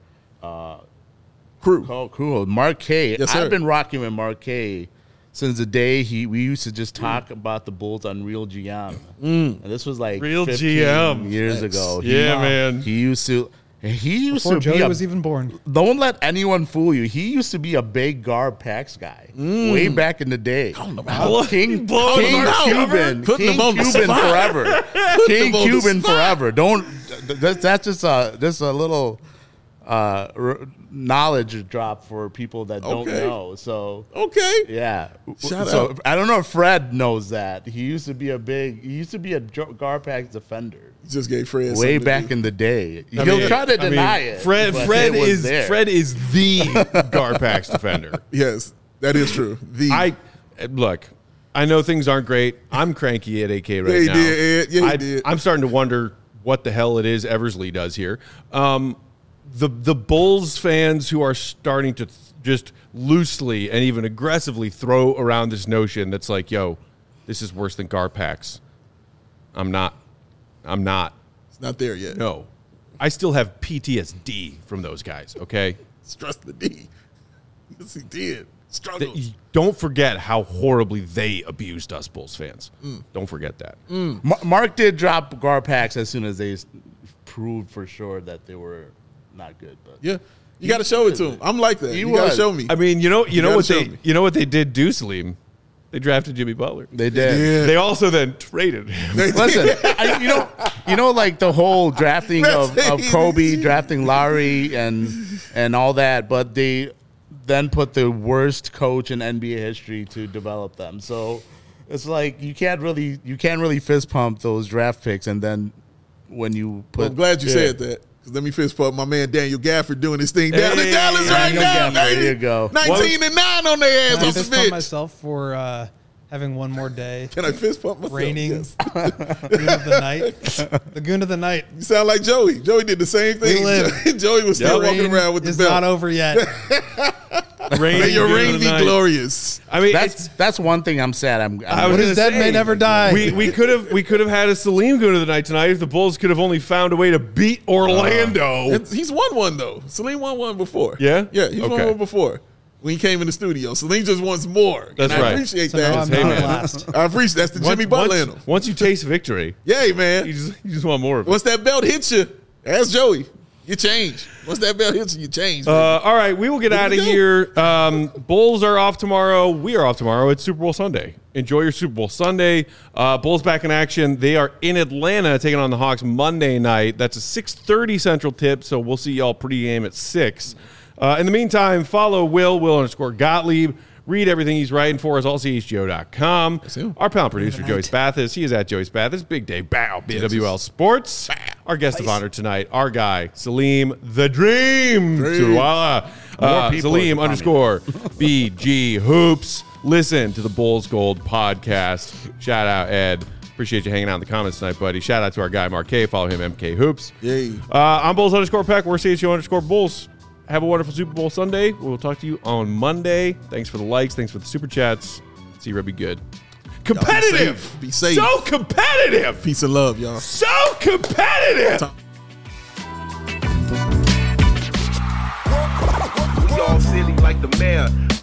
Crew. Mark K. Yes, sir. I've been rocking with Mark K since the day we used to just talk about the Bulls on Real GM. And this was like Real 15 GM. years Thanks. ago. Yeah, man. He used to. He used Before to be Joey a, was even born. Don't let anyone fool you. He used to be a big Garb Pax guy way back in the day. King Putting him Cuban on the spot. forever. King him on the Cuban spot. forever. Don't. That's just a little knowledge drop for people that don't Okay. know. So Okay. yeah. Shout so out. I don't know if Fred knows that. He used to be a Garb Pax defender. Just gave Fred Way something to back do. in the day. I He'll mean- try to I mean, deny it. Fred but Fred it was is there. Fred is the Garpax defender. Yes, that is true. Look, I know things aren't great. I'm cranky at AK right Yeah, he now. did, Ed. Yeah, he did. I'm starting to wonder what the hell it is Eversley does here. The Bulls fans who are starting to just loosely and even aggressively throw around this notion that's like, yo, this is worse than Garpax. I'm not. It's not there yet. No. I still have PTSD from those guys, okay? Stress the D. Yes, he did. Struggle. Don't forget how horribly they abused us Bulls fans. Don't forget that. Mark did drop Garpax as soon as they proved for sure that they were not good. But Yeah, you got to show it to him. I'm like that. He You got to was. show me. I mean, you know gotta what show they me. what they did do, Salim? They drafted Jimmy Butler. they did. Yeah. They also then traded him. Listen, you know, like the whole drafting of Kobe, drafting Lowry, and all that, but they then put the worst coach in NBA history to develop them. So it's like you can't really fist pump those draft picks, and then when you put, Well, I'm glad you yeah. said that. 'Cause let me fist pump my man Daniel Gafford doing his thing down in Hey, Dallas right Daniel now, Gafford, baby. there you go. 19-9 on their ass Can I on the fist pump bench. myself for having one more day? Can I fist pump myself? Reigning Yes. goon of the night. The goon of the night. You sound like Joey. Joey did the same thing. We live. Joey was still walking Reign around with the is belt. not over yet. May your Good reign of be the night. glorious. I mean, it's, That's one thing I'm sad. I was What gonna is dead say, may never die. we could have had a Salim go to the night tonight if the Bulls could have only found a way to beat Orlando. He's won one, though. Salim won one before. Yeah? Yeah, he's won Okay. one before when he came in the studio. Salim just wants more. That's and I right. appreciate So now that. I'm Hey, not man. last. I appreciate that's the Jimmy Butler in him. Once you taste victory, Yay, man. you just want more of it. Once that belt hits you, ask Joey. You change. Once that belt hits you, you change. All right, we will get out of we go. here. Bulls are off tomorrow. We are off tomorrow. It's Super Bowl Sunday. Enjoy your Super Bowl Sunday. Bulls back in action. They are in Atlanta taking on the Hawks Monday night. That's a 6:30 Central tip, so we'll see y'all pregame at 6. In the meantime, follow Will_Gottlieb. Read everything he's writing for us, allchgo.com. Our panel producer, Joey Spathis. He is at Joey Spathis. Big day, bow, BWL Sports. Our guest of honor tonight, our guy, Salim the Dream. Surwala. More people Salim are _BG Hoops. Listen to the Bulls Gold podcast. Shout out, Ed. Appreciate you hanging out in the comments tonight, buddy. Shout out to our guy, Mark K. Follow him, MK Hoops. Yay. I'm Bulls_Peck. We're CHO_Bulls. Have a wonderful Super Bowl Sunday. We'll talk to you on Monday. Thanks for the likes. Thanks for the super chats. See you, Be good. Competitive. Be safe. So competitive. Peace and love, y'all. So competitive. We all silly like the mayor.